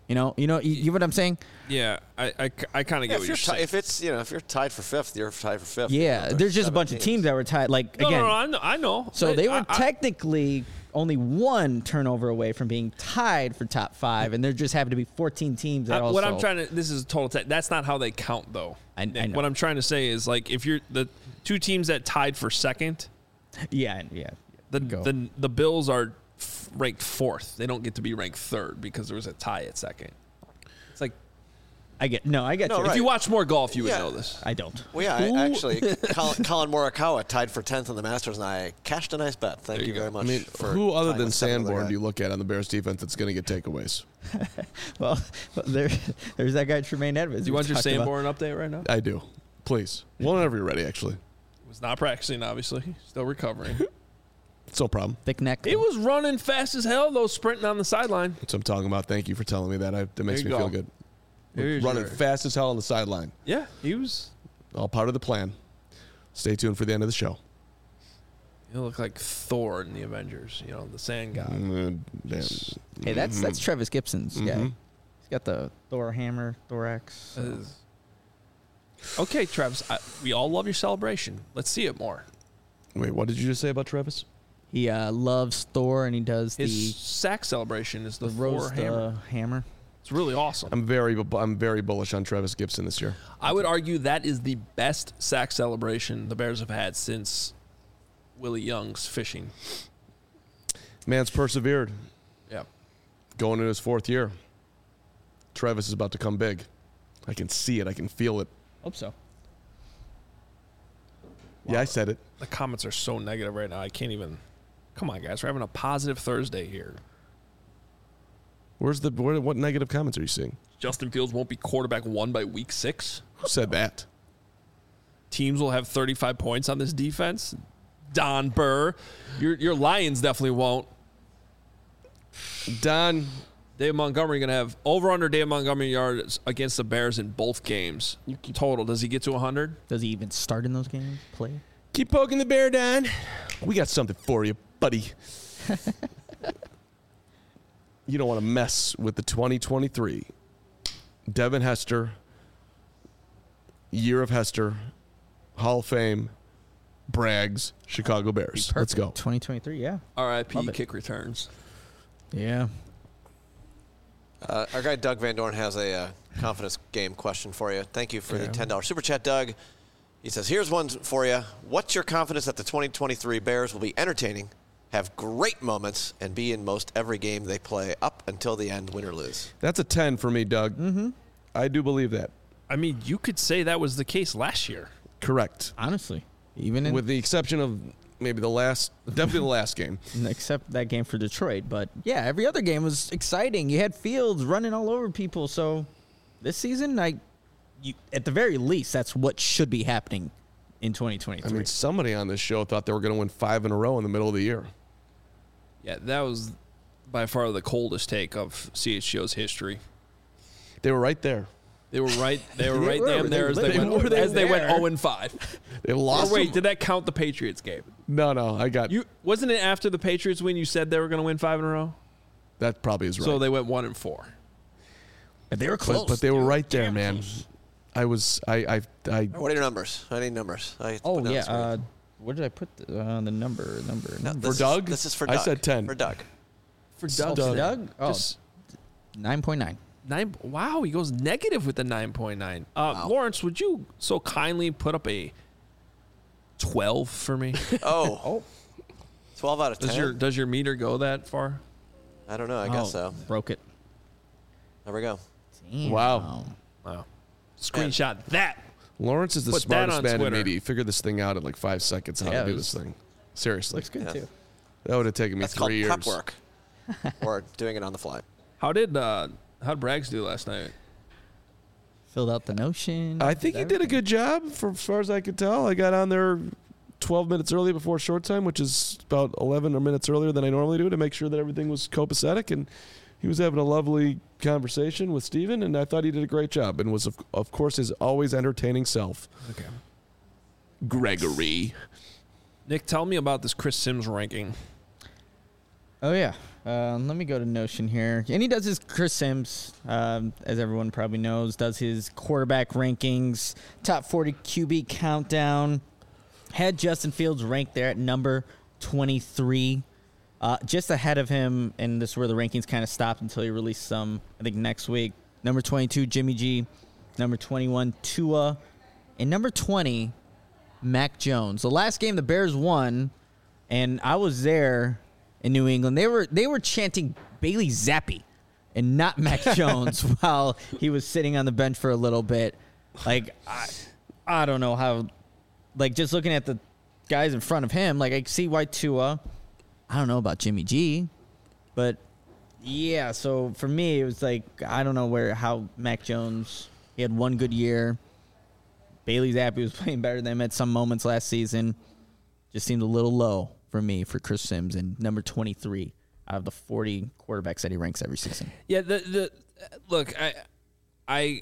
You know, you know, you, you know what I'm saying? Yeah, I, I, I kind of Yeah, get if, what you're you're ti- saying. if it's you know if you're tied for fifth, you're tied for fifth. Yeah, You know, there's just a seven bunch of teams that were tied. Like no, again, no, no, I know. I know. so I- they were I- I- technically only one turnover away from being tied for top five, and there just happened to be fourteen teams that I- also. what I'm trying to this is a total tech. That's not how they count though. I- I Nick. know. What I'm trying to say is like if you're the two teams that tied for second, Yeah, yeah. the Go. the the Bills are f- ranked fourth. They don't get to be ranked third because there was a tie at second. It's like I get no, I get No, you. right. if you watch more golf, you would Yeah. know this. I don't. Well, yeah, Who- I, actually, Colin, Colin Morikawa tied for tenth in the Masters, and I cashed a nice bet. Thank There you you very go. much. I mean, for who other tying than with seven other Sanborn guys. do you look at on the Bears defense that's going to get takeaways? Well, there, there's that guy Tremaine Edmonds. Do you we want your talked about. Sanborn update right now? I do. Please. Whenever you're ready, actually. Was not practicing, obviously. Still recovering. It's no problem. Thick neck. He was running fast as hell, though, sprinting on the sideline. That's what I'm talking about. Thank you for telling me that. I, that makes There me you feel go. good. Here's Running your- fast as hell on the sideline. Yeah, he was. All part of the plan. Stay tuned for the end of the show. He looked like Thor in the Avengers. You know, the Sand God. Mm, damn. Hey, that's that's Travis Gibson's guy. Mhm. He's got the Thor hammer, thorax. That is- Okay, Travis. I, we all love your celebration. Let's see it more. Wait, what did you just say about Travis? He uh, loves Thor, and he does His the sack celebration is the, the Thor rose hammer. uh, hammer. It's really awesome. I'm very, bu- I'm very bullish on Travis Gibson this year. I would argue that is the best sack celebration the Bears have had since Willie Young's fishing. Man's persevered, Yeah. going in his fourth year. Travis is about to come big. I can see it. I can feel it. Hope so. Yeah, I said it. The comments are so negative right now. I can't even. Come on, guys. We're having a positive Thursday here. Where's the where, what negative comments are you seeing? Justin Fields won't be quarterback one by week six. Who said that? Teams will have thirty-five points on this defense. Don Burr. Your your Lions definitely won't. Don, Dave Montgomery going to have over under Dave Montgomery yards against the Bears in both games. Total. Does he get to one hundred? Does he even start in those games? Play? keep poking the bear, Don. We got something for you, buddy. You don't want to mess with the twenty twenty-three Devin Hester, Year of Hester, Hall of Fame, Braggs, Chicago Bears. Let's go. twenty twenty-three, yeah. R I P Love it. kick returns. Yeah. Uh, our guy Doug Van Dorn has a uh, confidence game question for you. Thank you for Yeah. the ten dollars super chat, Doug. He says, here's one for you. What's your confidence that the twenty twenty-three Bears will be entertaining, have great moments, and be in most every game they play up until the end, win or lose? That's a ten for me, Doug. Mm-hmm. I do believe that. I mean, you could say that was the case last year. Correct. Honestly. Even in, With the exception of maybe the last, definitely the last game. except that game for Detroit. But yeah, every other game was exciting. You had Fields running all over people. So this season, I, you, at the very least, that's what should be happening in twenty I twenty-three. mean, somebody on this show thought they were going to win five in a row in the middle of the year. Yeah, that was by far the coldest take of C H G O's history. They were right there. They were right. They were They right were. damn there as They they, went. were. They as they went were. zero and five. They Or lost. wait, them. did that count the Patriots game? No, no, I got You wasn't it after the Patriots win? You said they were going to win five in a row, that. Probably is right. so they went one and four. But they were close. but, but they were dude. right there, Damn man. close. I was. I. I. I What are your numbers? I need numbers. I Oh, put down yeah. this week. Uh, where did I put the, uh, the number? Number. No, number. this is- Doug? This is for I Doug. said ten. For Doug. For Oh, Doug, for Doug? Oh, Just nine point nine. nine. Wow, he goes negative with the nine point nine. Uh, Wow. Lawrence, would you so kindly put up a twelve for me? Oh. Oh. twelve out of ten? Does your does your meter go that far? I don't know. I guess so. Broke it. There we go. Damn. Wow. Wow. Screenshot that. Lawrence is the Put that smartest on man in Twitter. media. He figured this thing out in like five seconds how Yeah, to do it this was- thing. Seriously, Looks good, Yeah. too. that would have taken me That's called three years. prep work. Or doing it on the fly. How did uh how did Braggs do last night? Filled out the notion. I think he did a good job, for as far as I could tell. I got on there twelve minutes early before short time, which is about eleven or minutes earlier than I normally do, to make sure that everything was copacetic. And he was having a lovely conversation with Steven, and I thought he did a great job, and was, of, of course, his always entertaining self. Okay. Gregory. Nick, tell me about this Chris Sims ranking. Oh, yeah. Um, let me go to Notion here. And he does his Chris Sims, um, as everyone probably knows, does his quarterback rankings, top forty Q B countdown. Had Justin Fields ranked there at number twenty-three, uh, just ahead of him. And this is where the rankings kind of stopped until he released some, I think, next week. Number twenty-two, Jimmy G. Number twenty-one, Tua. And number twenty, Mac Jones. The last game the Bears won, and I was there in New England. They were they were chanting Bailey Zappi and not Mac Jones while he was sitting on the bench for a little bit. Like, I, I don't know how, like, just looking at the guys in front of him, like, I see why Tua. I don't know about Jimmy G, but yeah, so for me, it was like, I don't know where, how Mac Jones, he had one good year. Bailey Zappi was playing better than him at some moments last season. Just seemed a little low for me for Chris Sims and number twenty-three out of the forty quarterbacks that he ranks every season. Yeah, the the look, I I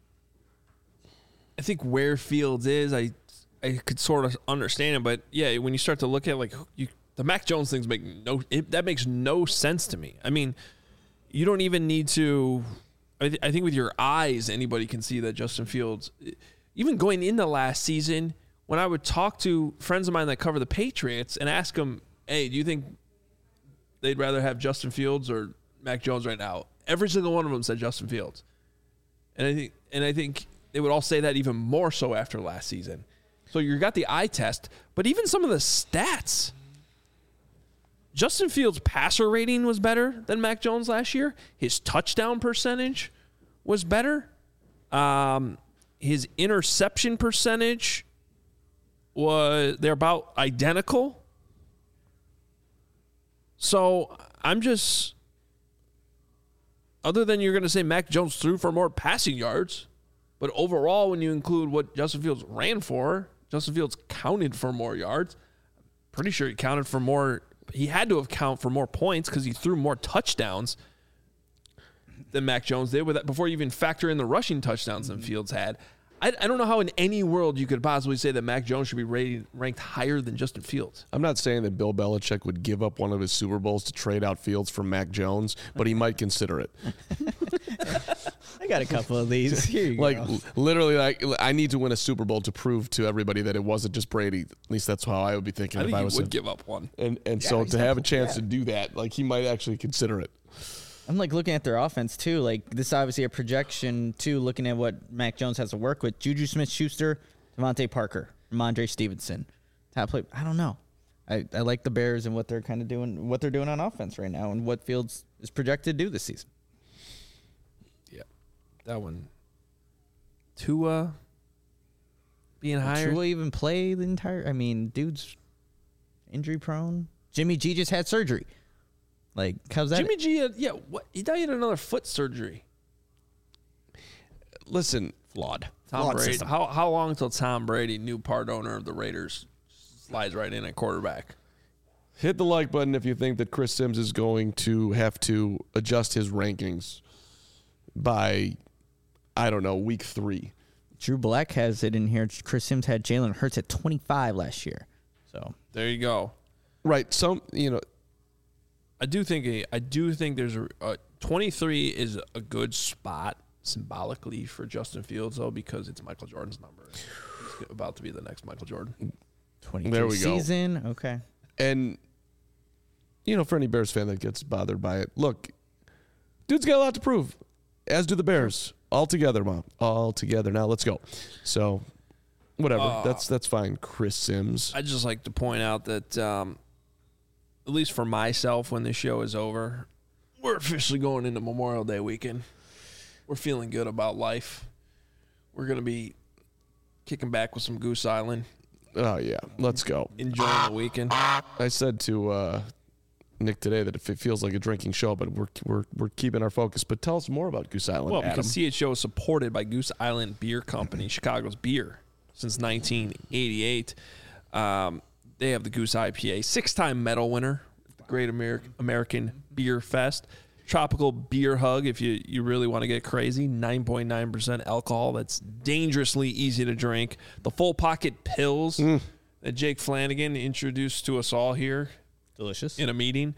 I think where Fields is, I I could sort of understand it, but yeah, when you start to look at like you, the Mac Jones things make no it, that makes no sense to me. I mean, you don't even need to. I, th- I think with your eyes, anybody can see that Justin Fields, even going into last season. When I would talk to friends of mine that cover the Patriots and ask them, hey, do you think they'd rather have Justin Fields or Mac Jones right now? Every single one of them said Justin Fields. And I think and I think they would all say that even more so after last season. So you got the eye test, but even some of the stats. Justin Fields' passer rating was better than Mac Jones last year. His touchdown percentage was better. Um, his interception percentage was they're about identical. So I'm just, other than you're going to say Mac Jones threw for more passing yards, but overall, when you include what Justin Fields ran for, Justin Fields counted for more yards. Pretty sure he counted for more. He had to have counted for more points because he threw more touchdowns than Mac Jones did with that before you even factor in the rushing touchdowns than Fields had. I, I don't know how in any world you could possibly say that Mac Jones should be rated, ranked higher than Justin Fields. I'm not saying that Bill Belichick would give up one of his Super Bowls to trade out Fields for Mac Jones, but he might consider it. I got a couple of these. Here you like go. literally, like I need to win a Super Bowl to prove to everybody that it wasn't just Brady. At least that's how I would be thinking I if think I he was would him. give up one. And and Yeah, so to have a exactly. chance Yeah. to do that, like he might actually consider it. I'm like looking at their offense too. Like this is obviously a projection too, looking at what Mac Jones has to work with. Juju Smith-Schuster, Devontae Parker, Ramondre Stevenson. Top play. I don't know. I, I like the Bears and what they're kind of doing, what they're doing on offense right now, and what Fields is projected to do this season. Yeah, that one. Tua being higher. Tua even play the entire? I mean, dude's injury prone. Jimmy G just had surgery. Like, how's that? Jimmy G, had, yeah, what, he died in another foot surgery. Listen, flawed. Tom Flawed Brady. system. How how long until Tom Brady, new part owner of the Raiders, slides right in at quarterback? hit the like button if you think that Chris Sims is going to have to adjust his rankings by, I don't know, week three. Drew Black has it in here. Chris Sims had Jalen Hurts at twenty-five last year. So There you go. Right. Some, you know, I do think a, I do think there's a, a twenty-three is a good spot symbolically for Justin Fields though, because it's Michael Jordan's number. He's about to be the next Michael Jordan. twenty-two There we go. season. Okay. and, you know, for any Bears fan that gets bothered by it, look, dude's got a lot to prove, as do the Bears. All together, Mom. All together. Now let's go. So, whatever. Uh, that's that's fine, Chris Sims. I'd just like to point out that, um, at least for myself, when this show is over, we're officially going into Memorial Day weekend. We're feeling good about life. We're going to be kicking back with some Goose Island, Oh, yeah. Let's go. enjoying the weekend. I said to uh, Nick today that if it feels like a drinking show, but we're we're we're keeping our focus. But tell us more about Goose Island, Well, Adam. because C H O is supported by Goose Island Beer Company, Chicago's beer, since nineteen eighty-eight. Um, they have the Goose I P A, six-time medal winner, the Great Ameri- American Beer Fest. Tropical Beer Hug, if you, you really want to get crazy, nine point nine percent alcohol. That's dangerously easy to drink. The Full Pocket Pills that Jake Flanagan introduced to us all here Delicious. in a meeting.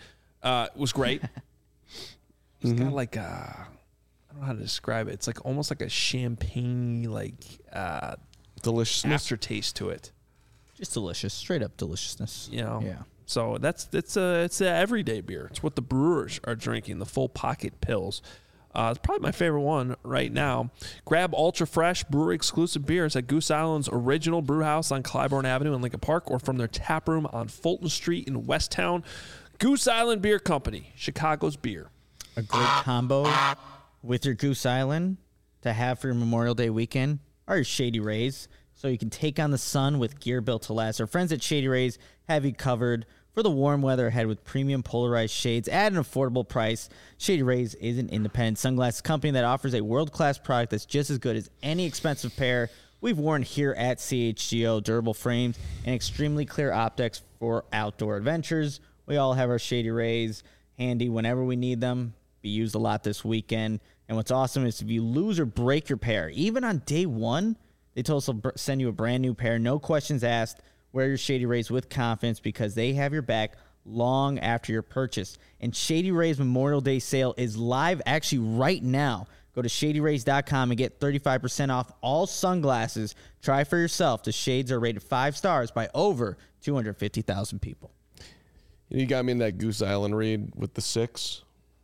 Uh, it was great. It's got like a, I don't know how to describe it. It's like almost like a champagne like uh, Deliciousness. aftertaste to it. Just delicious, straight up deliciousness. You know. Yeah. So that's it's a it's a everyday beer. It's what the brewers are drinking. The full pocket pills. Uh, it's probably my favorite one right now. Grab ultra fresh brewery exclusive beers at Goose Island's original brew house on Clybourne Avenue in Lincoln Park, or from their tap room on Fulton Street in Westtown. Goose Island Beer Company, Chicago's beer. A great combo with your Goose Island to have for your Memorial Day weekend are your Shady Rays, so you can take on the sun with gear built to last. Our friends at Shady Rays have you covered for the warm weather ahead with premium polarized shades at an affordable price. Shady Rays is an independent sunglasses company that offers a world-class product that's just as good as any expensive pair we've worn here at C H G O. Durable frames and extremely clear optics for outdoor adventures. We all have our Shady Rays handy whenever we need them. Be used a lot this weekend. And what's awesome is if you lose or break your pair, even on day one, they told us they'll send you a brand new pair. No questions asked. Wear your Shady Rays with confidence because they have your back long after your purchase. And Shady Rays Memorial Day sale is live actually right now. Go to shady rays dot com and get thirty-five percent off all sunglasses. Try for yourself. The shades are rated five stars by over two hundred fifty thousand people. You got me in that Goose Island read with the six.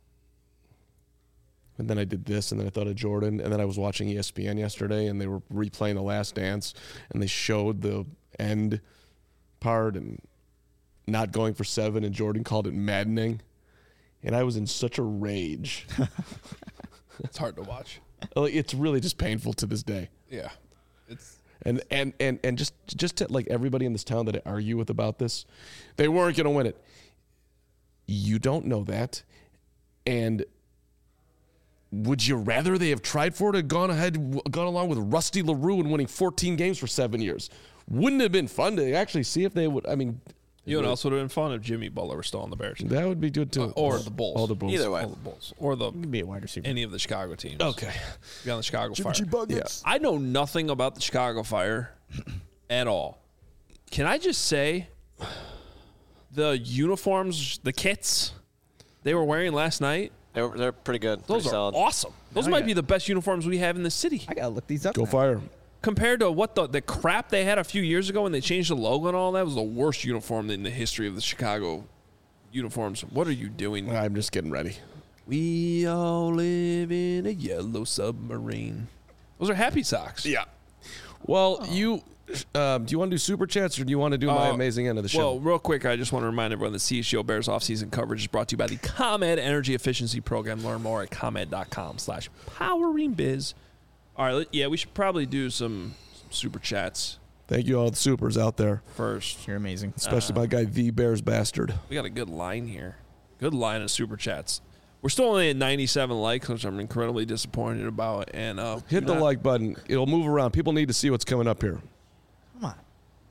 And then I did this, and then I thought of Jordan. And then I was watching E S P N yesterday, and they were replaying The Last Dance, and they showed the end part and not going for seven, and Jordan called it maddening. And I was in such a rage. It's hard to watch. Like, it's really just painful to this day. Yeah. It's And and and and just just to like everybody in this town that I argue with about this, they weren't going to win it. You don't know that. And would you rather they have tried for it and gone ahead, gone along with Rusty LaRue and winning fourteen games for seven years? Wouldn't it have been fun to actually see if they would? I mean, you know what else would have been fun if Jimmy Butler were still on the Bears. that would be good too. Uh, or the Bulls. All the Bulls. Either way. All the Bulls. Or the You can be a wide receiver. any of the Chicago teams. Okay. Be on the Chicago Fire. Yeah. I know nothing about the Chicago Fire at all. Can I just say the uniforms, the kits they were wearing last night, They're, they're pretty good. those pretty are solid. awesome. Those I might got- be the best uniforms we have in the city. I gotta look these up. Go now. Fire. Compared to what the, the crap they had a few years ago when they changed the logo and all that, was the worst uniform in the history of the Chicago uniforms. What are you doing? I'm just getting ready. We all live in a yellow submarine. Those are happy socks. Yeah. Well, you um, do you want to do super chats or do you want to do my Uh, amazing end of the show? Well, real quick, I just want to remind everyone that C H G O Bears offseason coverage is brought to you by the ComEd Energy Efficiency Program. Learn more at comed.com slash powering biz. All right, let- yeah, we should probably do some, some super chats Thank you all the supers out there, first. You're amazing. especially my guy The Bears Bastard. We got a good line here. Good line of super chats. We're still only at ninety-seven likes, which I'm incredibly disappointed about. And uh, Hit the not- like button. It'll move around. People need to see what's coming up here. Come on.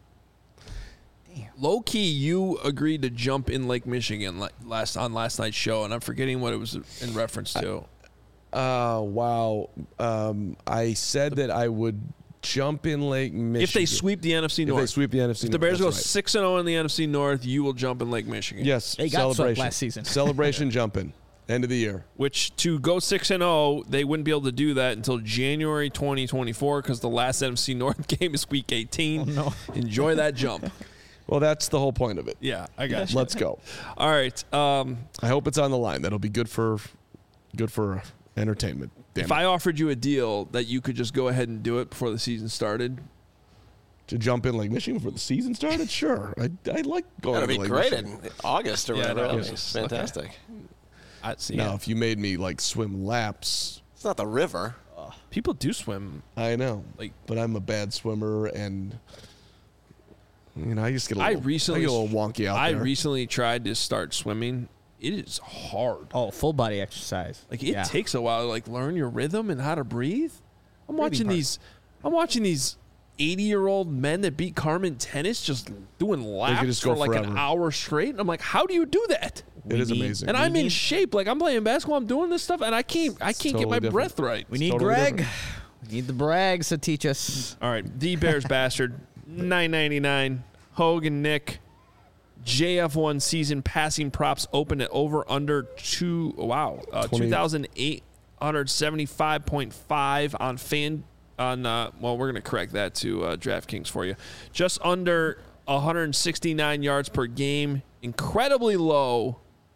Low key, you agreed to jump in Lake Michigan la- last on last night's show, and I'm forgetting what it was in reference to. Uh, wow. Um, I said that I would jump in Lake Michigan. If they sweep the N F C If North, they sweep the N F C if the Bears North, go that's right. six and zero in the N F C North, you will jump in Lake Michigan. Yes, They got swept celebration. last season. Celebration jumping. End of the year. Which to go six and zero, they wouldn't be able to do that until January twenty twenty-four because the last N F C North game is Week eighteen. Oh, no. Enjoy that jump. Well, that's the whole point of it. Yeah, I got you. Let's go. All right. Um, I hope it's on the line. That'll be good for good for entertainment. Damn if it. I offered you a deal that you could just go ahead and do it before the season started, to jump in Lake Michigan before the season started, sure. I I like going That'd to be Lake great Michigan. in August or Yeah, whatever. no, That yeah. was fantastic. I'd see. Now, if you made me like swim laps, It's not the river. People do swim. I know. Like- but I'm a bad swimmer, and you know, I just get a I little, recently I get a little wonky out I there. recently tried to start swimming. It is hard. Oh, full body exercise. Like it Yeah. takes a while to like learn your rhythm and how to breathe. I'm watching part. these I'm watching these eighty year old men that beat Carmen tennis just doing laps just for go like an forever. hour straight. And I'm like, how do you do that? It is need- amazing. And I'm in need- shape. Like I'm playing basketball, I'm doing this stuff, and I can't I can't get totally my different. breath right. We need totally Greg. different. We need the Brags to teach us. All right, the Bears bastard, nine ninety nine. Hogan Nick, J F one season passing props open at over under two. Wow, uh, two thousand eight hundred seventy-five point five on fan on. Uh, well, we're gonna correct that to uh, DraftKings for you. Just under one hundred sixty-nine yards per game. Incredibly low.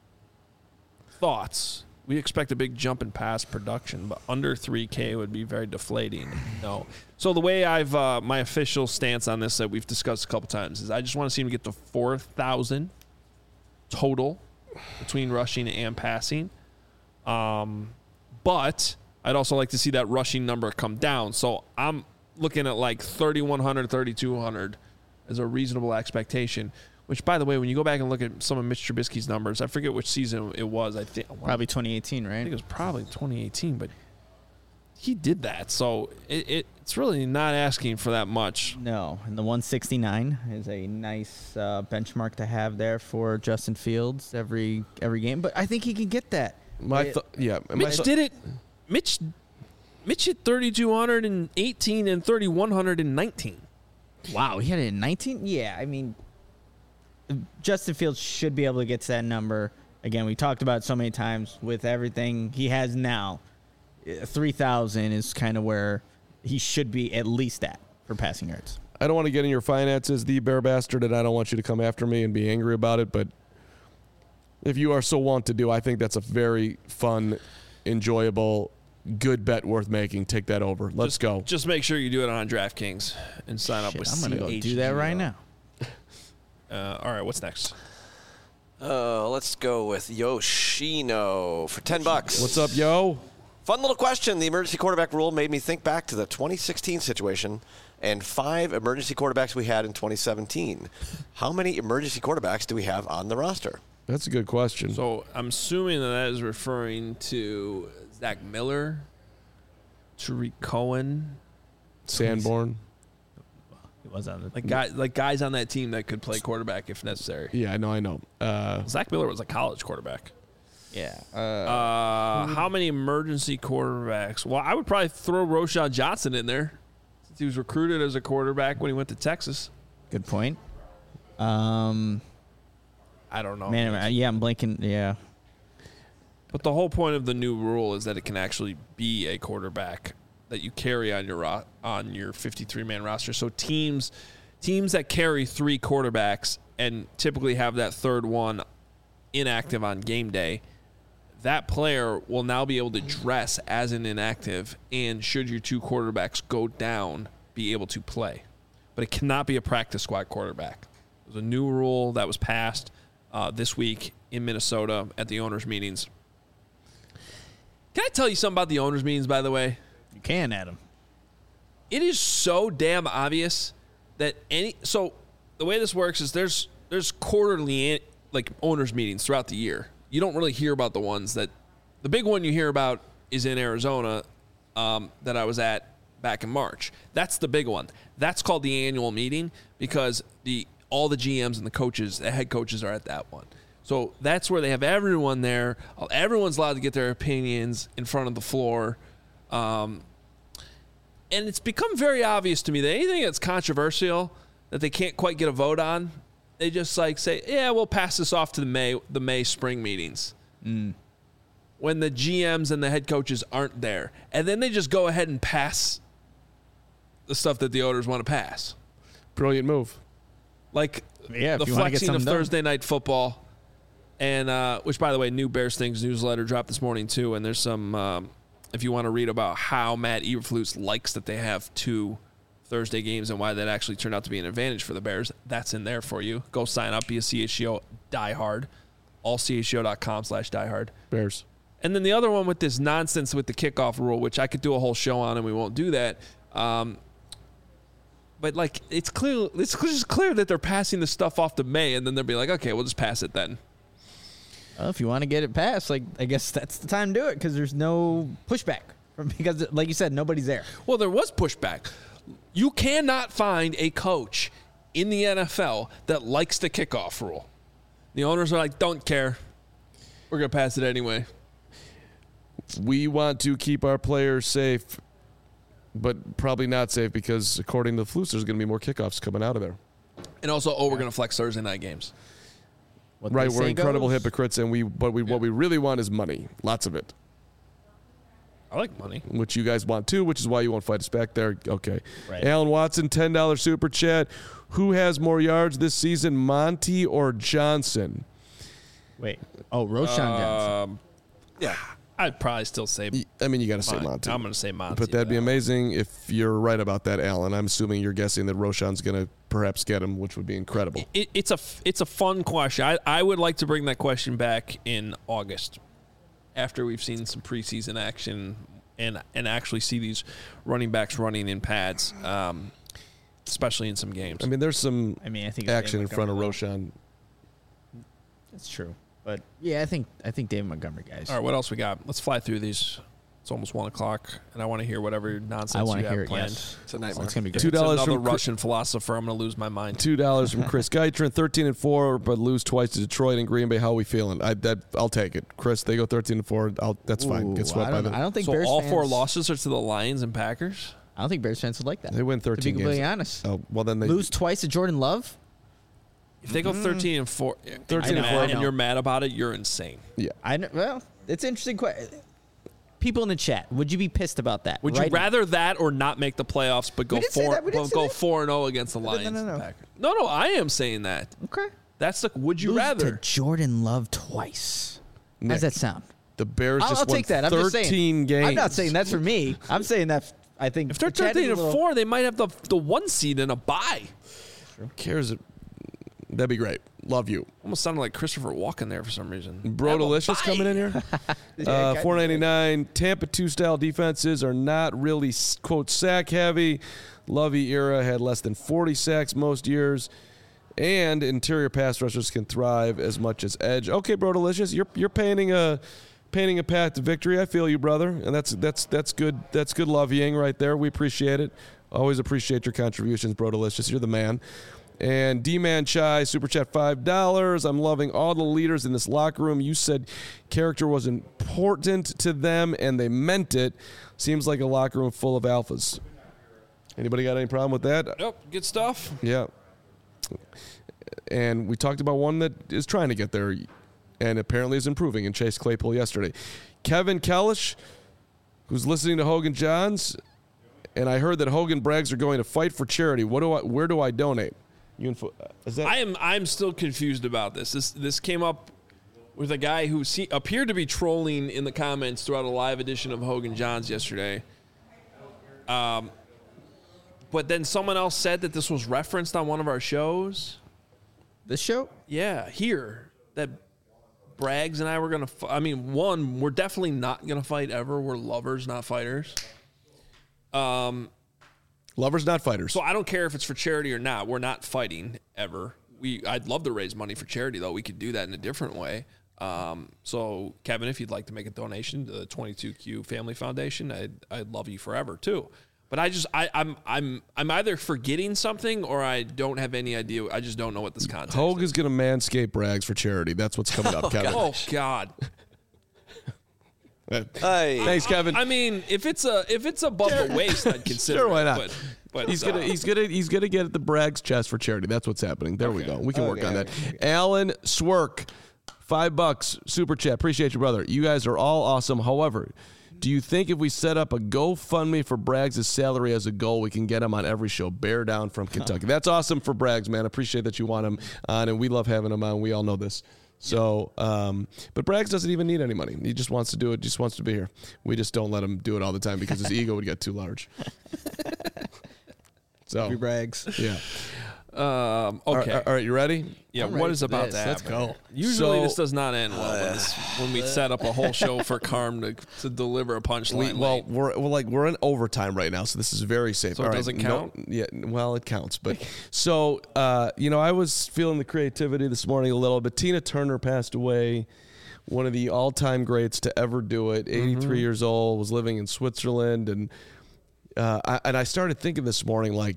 Thoughts? We expect a big jump in pass production, but under three K would be very deflating. No. So the way I've uh, my official stance on this that we've discussed a couple times is I just want to see him get to four thousand total between rushing and passing. Um, but I'd also like to see that rushing number come down. So I'm looking at like thirty-one hundred, thirty-two hundred as a reasonable expectation. Which, by the way, when you go back and look at some of Mitch Trubisky's numbers, I forget which season it was. I think probably twenty eighteen, right? I think it was probably twenty eighteen, but he did that, so it, it it's really not asking for that much. No, and the one sixty-nine is a nice uh, benchmark to have there for Justin Fields every every game. But I think he can get that. My th- yeah, my Mitch th- did it. Mitch Mitch hit thirty-two eighteen and thirty-one nineteen. Wow, he had it in nineteen? Yeah, I mean, Justin Fields should be able to get to that number. Again, we talked about it so many times with everything he has now. three thousand is kind of where he should be at least at for passing yards. I don't want to get in your finances, the bear bastard, and I don't want you to come after me and be angry about it, but if you are so want to do, I think that's a very fun, enjoyable, good bet worth making. Take that over. Let's just, go. Just make sure you do it on DraftKings and sign up Shit, with I'm going to go C H G O. do that right now. Uh, all right, what's next? Uh, let's go with Yoshino for ten bucks. What's up, yo? Fun little question. The emergency quarterback rule made me think back to the twenty sixteen situation and five emergency quarterbacks we had in twenty seventeen. How many emergency quarterbacks do we have on the roster? That's a good question. So I'm assuming that that is referring to Zach Miller, Tariq Cohen, Sanborn. He was on the like guys, like guys on that team that could play quarterback if necessary. Yeah, I know, I know. Uh, Zach Miller was a college quarterback. Yeah. Uh, Uh, how many emergency quarterbacks? Well, I would probably throw Roshan Johnson in there since he was recruited as a quarterback when he went to Texas. good point. Um, I don't know. man, I- yeah, I'm blanking. Yeah. But the whole point of the new rule is that it can actually be a quarterback that you carry on your ro- on your fifty-three man roster. So teams teams that carry three quarterbacks and typically have that third one inactive on game day, that player will now be able to dress as an inactive and should your two quarterbacks go down, be able to play. But it cannot be a practice squad quarterback. There's a new rule that was passed uh, this week in Minnesota at the owners' meetings. Can I tell you something about the owners' meetings, by the way? You can, Adam. It is so damn obvious that any so the way this works is there's there's quarterly like owners meetings throughout the year. You don't really hear about the ones that the big one you hear about is in Arizona um, that I was at back in March. That's the big one. That's called the annual meeting because the all the G Ms and the coaches, the head coaches are at that one. So that's where they have everyone there. Everyone's allowed to get their opinions in front of the floor. Um, and it's become very obvious to me that anything that's controversial that they can't quite get a vote on, they just like say, yeah, we'll pass this off to the May the May spring meetings. Mm. When the G Ms and the head coaches aren't there. And then they just go ahead and pass the stuff that the owners want to pass. Brilliant move. Like Yeah, if the you wanna get flexing of something done. Thursday night football. And uh, which, by the way, new Bears Things newsletter dropped this morning, too. And there's some, um, if you want to read about how Matt Eberflus likes that they have two Thursday games and why that actually turned out to be an advantage for the Bears, that's in there for you. Go sign up, be a C H G O diehard, all C H G O dot com slash diehard. Bears. And then the other one with this nonsense with the kickoff rule, which I could do a whole show on and we won't do that. Um, but, like, it's clear, it's just clear that they're passing the stuff off to May, and then they'll be like, okay, we'll just pass it then. Well, if you want to get it passed, like I guess that's the time to do it because there's no pushback. From, because, like you said, nobody's there. Well, there was pushback. You cannot find a coach in the N F L that likes the kickoff rule. The owners are like, don't care. We're going to pass it anyway. We want to keep our players safe, but probably not safe because according to the Flus, there's going to be more kickoffs coming out of there. And also, oh, we're going to flex Thursday night games. what Right, they we're say incredible goes. hypocrites, and we but we what we really want is money, lots of it, I like money. which you guys want too, which is why you won't fight us back there. Okay, Right. Alan Watson, ten dollar super chat. Who has more yards this season, Monty or Johnson? Wait. Oh, Roshan Johnson. Um, Yeah. I'd probably still say. Y- I mean, you got to say Mon- Monty. I'm going to say Monty. But that'd be though. amazing if you're right about that, Alan. I'm assuming you're guessing that Roshan's going to perhaps get him, which would be incredible. It, it's a f- it's a fun question. I, I would like to bring that question back in August, after we've seen some preseason action and and actually see these running backs running in pads, um, especially in some games. I mean, there's some I mean, I think it's action in David front of Montgomery. Roshan. That's true. But yeah, I think I think David Montgomery, guys. All right, what else we got? Let's fly through these. It's almost one o'clock, and I want to hear whatever nonsense I want you to have hear it. planned. Yes. It's a Oh, nightmare. it's gonna be If great. Two it's dollars another from Chris- Russian philosopher, I'm going to lose my mind. Two dollars from Chris Geitrin, thirteen and four, but lose twice to Detroit and Green Bay. How are we feeling? I that I'll take it. Chris, they go thirteen and four. I'll, that's fine. Ooh, Get swept I by don't, them. I don't think So Bears all fans, four losses are to the Lions and Packers? I don't think Bears fans would like that. They win to be thirteen completely games. honest. Oh well, then they Lose twice to Jordan Love. If they go thirteen and four, thirteen and, and four. and you're mad about it, you're insane. Yeah. I know, well, it's an interesting question. People in the chat, would you be pissed about that? Would right you now? rather that or not make the playoffs, but go We didn't say four, that. We didn't but say go that. four and zero against the no, Lions? no, and no. Packers? No, no, I am saying that. Okay. That's the. Would you Lose rather? to Jordan Love twice? How Nick, does that sound? the Bears I'll, just I'll won take that. I'm just thirteen saying. games. I'm not saying that's for me. I'm saying that I think If they're the chat is thirteen a and little- four, they might have the the one seed and a bye. cares. That'd be great. Love you. Almost sounded like Christopher Walken there for some reason. Bro Have a Delicious bye. coming in here. Yeah, Uh, guys- four ninety nine. Tampa two style defenses are not really quote sack heavy. Lovey era had less than forty sacks most years, and interior pass rushers can thrive as much as edge. Okay, Bro Delicious, you're you're painting a painting a path to victory. I feel you, brother, and that's that's that's good. That's good loveying right there. We appreciate it. Always appreciate your contributions, Bro Delicious. You're the man. And D-Man Chai, Super Chat five dollars. I'm loving all the leaders in this locker room. You said character was important to them, and they meant it. Seems like a locker room full of alphas. Anybody got any problem with that? Yep, good stuff. Yeah. And we talked about one that is trying to get there and apparently is improving in Chase Claypool yesterday. Kevin Kellish, who's listening to Hogan Johns, and I heard that Hogan Braggs are going to fight for charity. What do I? Where do I donate? You info, is that I am I'm still confused about this. This this came up with a guy who se- appeared to be trolling in the comments throughout a live edition of Hogan Johns yesterday. Um, but then someone else said that this was referenced on one of our shows. This show? Yeah, here that Braggs and I were gonna. F- I mean, one, we're definitely not gonna fight ever. We're lovers, not fighters. Um. lovers, not fighters? So I don't care if it's for charity or not. We're not fighting ever. We I'd love to raise money for charity though. We could do that in a different way. Um, so Kevin, if you'd like to make a donation to the twenty-two Q Family Foundation, I'd I'd love you forever too. But I just I, I'm I'm I'm either forgetting something or I don't have any idea. I just don't know what this context Hogue is. is going to manscape Braggs for charity. That's what's coming up, Kevin. Oh God! Uh, Hey. Thanks, Kevin. I mean, if it's a if it's above the waist, I'd consider. Sure, why it, not? But, but He's gonna uh, he's gonna he's gonna get at the Bragg's chest for charity. That's what's happening. There we Okay. go. We can work Okay, on that. okay, Alan Swerk, five bucks super chat. Appreciate you, brother. You guys are all awesome. However, do you think if we set up a GoFundMe for Braggs' salary as a goal, we can get him on every show? Bear down from Kentucky. That's awesome for Braggs, man. Appreciate that you want him on, and we love having him on. We all know this. So, um, but Braggs doesn't even need any money. He just wants to do it. Just wants to be here. We just don't let him do it all the time because his ego would get too large. So, Free Braggs. yeah. um, All right, okay. all right, you ready? Yeah, I'm what ready is for about this. to Let's happen? go. Usually So- this does not end well when, this, when we set up a whole show for Carm to, to deliver a We, punchline. well, late. we're, we're like we're in overtime right now, so this is very safe. So it All right, doesn't no- count? yeah, well, it counts. But so uh, you know, I was feeling the creativity this morning a little bit. Tina Turner passed away, one of the all-time greats to ever do it. eighty-three Mm-hmm. years old, was living in Switzerland, and uh, I, and I started thinking this morning like,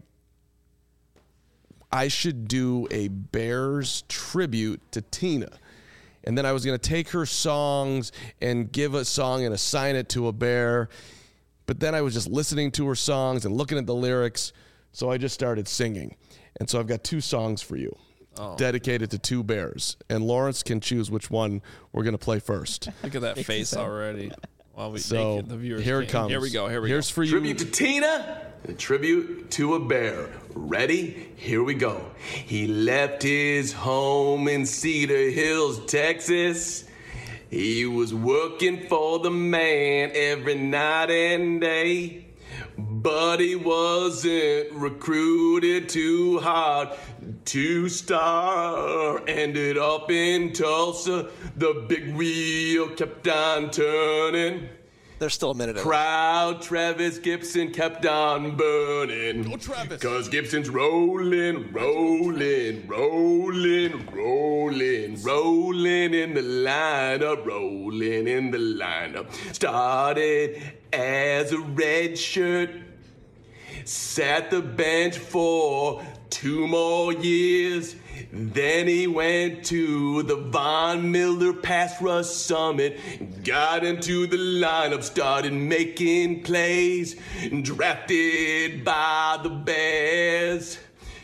I should do a Bears tribute to Tina. And then I was going to take her songs and give a song and assign it to a bear. But then I was just listening to her songs and looking at the lyrics. So I just started singing. And so I've got two songs for you. Oh. dedicated to two bears, and Lawrence can choose which one we're going to play first. Look at that face already. While we So make it, the viewers here it can. comes. Here we go. Here we Here's go. for you. Tribute to Tina and a tribute to a bear. Ready? Here we go. He left his home in Cedar Hills, Texas. He was working for the man every night and day. But he wasn't recruited too hard to star. Ended up in Tulsa. The big wheel kept on turning. There's still a minute. Proud Travis Gibson kept on burning. Go Travis. Cause Gibson's rolling, rolling, rolling, rolling, rolling in the lineup, rolling in the lineup. Started as a red shirt, sat the bench for two more years. Then he went to the Von Miller Pass Rush Summit, got into the lineup, started making plays, drafted by the Bears.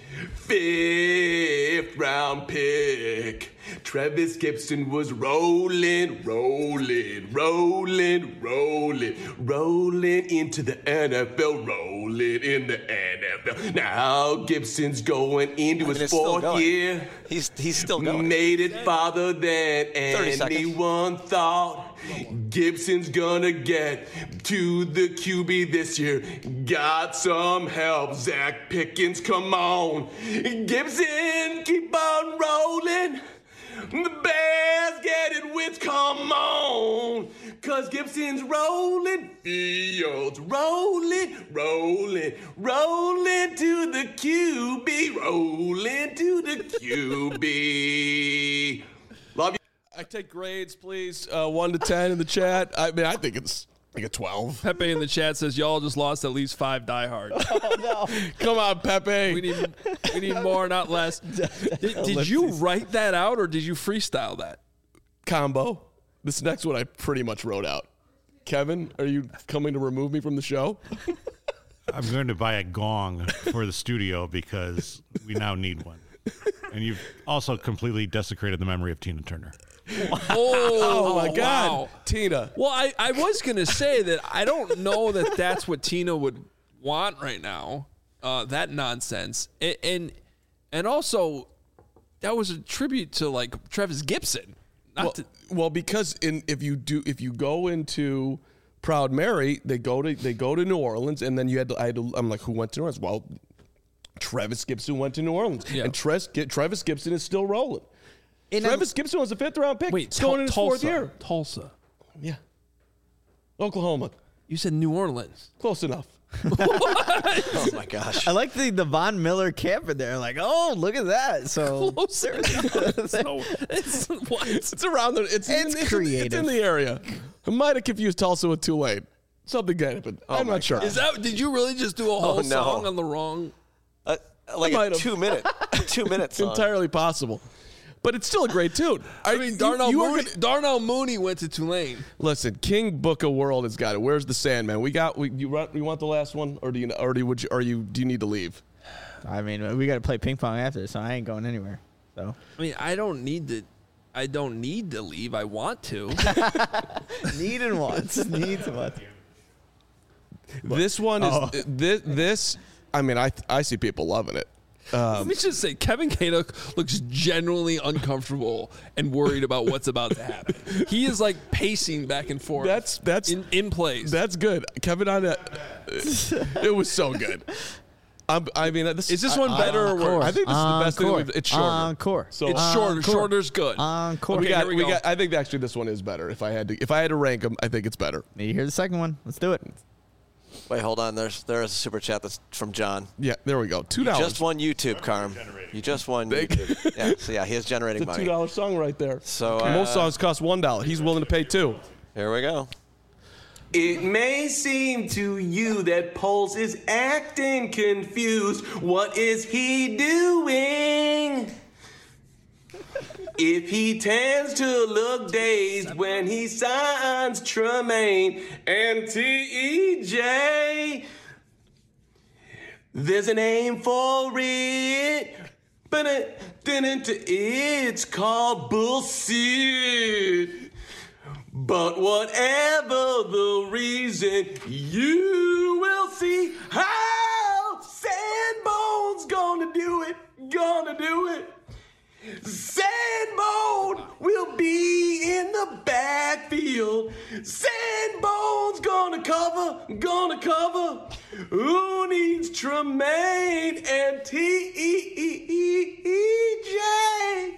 Fifth round pick. Travis Gibson was rolling, rolling, rolling, rolling, rolling into the N F L, rolling in the N F L. Now Gibson's going into I mean, his it's still fourth going. year. He's he's still going. Made it farther than thirty seconds. anyone thought. Gibson's gonna get to the Q B this year. Got some help. Zach Pickens, come on. Gibson, keep on rolling. The Bears get it with come on. Cause Gibson's rolling. Fields rolling, rolling, rolling to the Q B. Rolling to the Q B. Love you. I take grades, please. Uh, one to ten in the chat. I mean, I think it's like a twelve. Pepe in the chat says y'all just lost at least five diehards. Come on, Pepe. We need we need more, not less. Did, did you write that out or did you freestyle that? Combo. This next one I pretty much wrote out. Kevin, are you coming to remove me from the show? I'm going to buy a gong for the studio because we now need one. And you've also completely desecrated the memory of Tina Turner. Oh, Oh, my God. wow. Tina. Well, I, I was going to say that I don't know that that's what Tina would want right now, uh, that nonsense. And, and and also, that was a tribute to, like, Travis Gibson. Not Well, to, well, because in if you do if you go into Proud Mary, they go to they go to New Orleans, and then you had to, I had to, I'm like, who went to New Orleans? Well, Travis Gibson went to New Orleans, Yeah. and Tres, Travis Gibson is still rolling. And Travis Gibson was a fifth round pick. wait, It's going Tul- in his Tulsa. fourth year. Tulsa. Yeah, Oklahoma, You said New Orleans. close enough. Oh my gosh. I like the, the Von Miller camp in there. Like, oh, look at that. So Closer. It's no, it's, what? It's around the. It's, It's in, it's, creative. it's in the area. I might have confused Tulsa with Tulane. Something good, but I'm my not sure. Is that? Did you really just do a whole no. song on the wrong? Uh, like might a have. two minute, two minutes. song. entirely possible? But it's still a great tune. I mean, Darnell, you are Mooney, gonna- Darnell Mooney went to Tulane. Listen, King Book of World has got it. Where's the Sandman? We got. We you want, you want the last one, or do you? Or do you, would you? Are you? Do you need to leave? I mean, we got to play ping pong after, so I ain't going anywhere. So I mean, I don't need to. I don't need to leave. I want to. need and wants, needs and wants. This one is Oh. this. This. I mean, I I see people loving it. Let me just say, Kevin Kaduk looks genuinely uncomfortable and worried about what's about to happen. He is like pacing back and forth. That's that's in, in place. That's good, Kevin. On that, it was so good. I'm, I mean, this Is this one better or Encore. worse? I think this is the best thing. Encore. We've, it's shorter. Encore. So It's shorter. Encore. Shorter's good. Encore. we Okay, got. here we We go. got. I think actually this one is better. If I had to, if I had to rank them, I think it's better. Need to hear the second one. Let's do it. Wait, hold on. There's there is a super chat that's from John. Yeah, there we go. Two You dollars. just won YouTube, Carm. You just won YouTube. Yeah, so yeah, he is generating It's a two money. dollar song right there. So, uh, most songs cost one dollar. He's willing to pay two. Here we go. It may seem to you that Pulse is acting confused. What is he doing? If he tends to look dazed when he signs Tremaine and T E J, there's a name for it. But it didn't, it's called bullshit. But whatever the reason, you will see how Sandbone's gonna do it, gonna do it. Sandbone will be in the backfield. Sandbone's gonna cover, gonna cover. Who needs Tremaine and T J?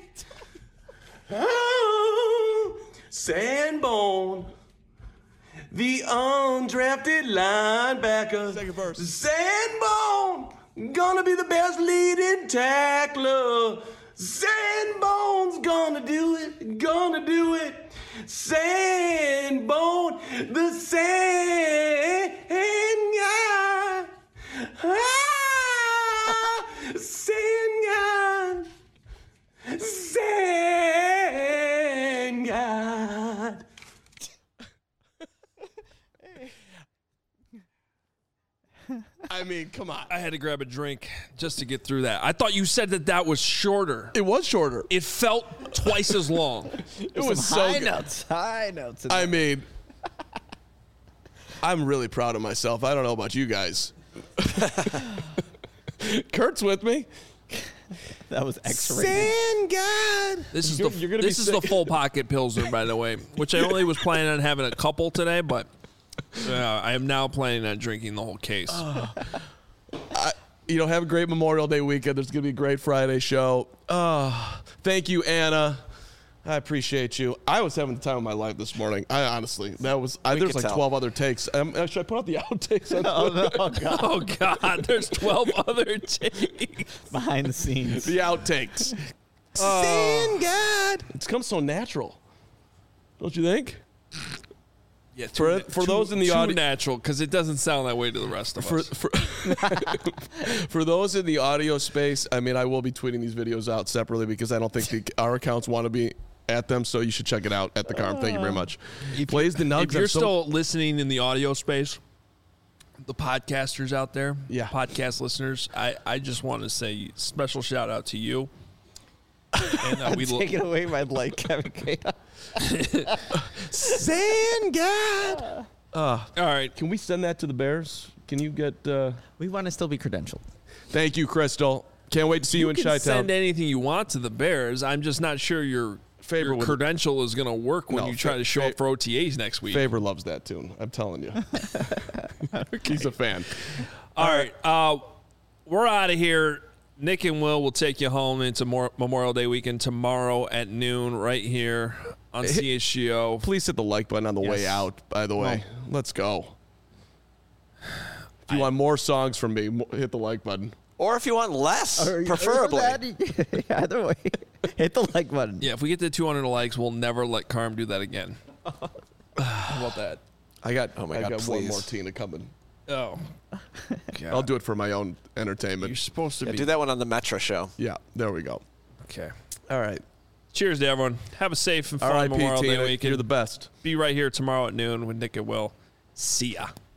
Oh, Sandbone, the undrafted linebacker. Second verse. Sandbone, gonna be the best leading tackler. Sandbone's gonna do it, gonna do it. Sandbone, the sand guy. Ah, sand guy. Sand God. I mean, come on. I had to grab a drink just to get through that. I thought you said that that was shorter. It was shorter. It felt twice as long. It was so high good. notes, high notes. in I there. mean, I'm really proud of myself. I don't know about you guys. Kurt's with me. that was X-rated. Sand God. This is You're- the you're gonna this be is the sick. full pocket Pilsner, by the way, which I only was planning on having a couple today, but uh, I am now planning on drinking the whole case. You know, have a great Memorial Day weekend. There's going to be a great Friday show. Uh, thank you, Anna. I appreciate you. I was having the time of my life this morning. I honestly, that was, I, there's could like tell. twelve other takes. Um, uh, should I put out the outtakes? On Oh, no, oh, God. Oh God, there's twelve other takes. Behind the scenes. the outtakes. Sand God. It's come so natural. Don't you think? Yeah, For- too, for too- those in the too audi- natural because it doesn't sound that way to the rest of For, us. for, for those in the audio space, I mean, I will be tweeting these videos out separately because I don't think the, our accounts want to be at them, so you should check it out at the Carm. Thank you very much. He plays the nugs. If you're I'm so- still listening in the audio space, the podcasters out there, Yeah. podcast listeners, I, I just want to say special shout out to you. And uh, we lo- Take it away, my like Kevin K. Sand God. all right. Can we send that to the Bears? Can you get? Uh... We want to still be credentialed. Thank you, Crystal. Can't wait to see you, You in can Chi-Town. send anything you want to the Bears. I'm just not sure your Faber your would- credential is going to work when No, you try Fa- to show Fa- up for O T As next week. Faber loves that tune. I'm telling you. He's a fan. All right. Uh, we're out of here. Nick and Will will take you home into more Memorial Day weekend tomorrow at noon right here on C H G O. Please hit the like button on the way Yes. out, by the way. Let's go. If you want more songs from me, mo- hit the like button. Or if you want less, Or- or preferably. that- Either way, hit the like button. Yeah, if we get to two hundred likes, we'll never let Carm do that again. How about that? I got, Oh my I God, got one please. more Tina coming. Oh, I'll do it for my own you're entertainment. supposed to Yeah, be. do that one on the Metro show. Yeah, there we go. Okay. All right. Cheers to everyone. Have a safe and fun All right, Memorial Day Tina, weekend. you're the best. Be right here tomorrow at noon with Nick and Will. See ya.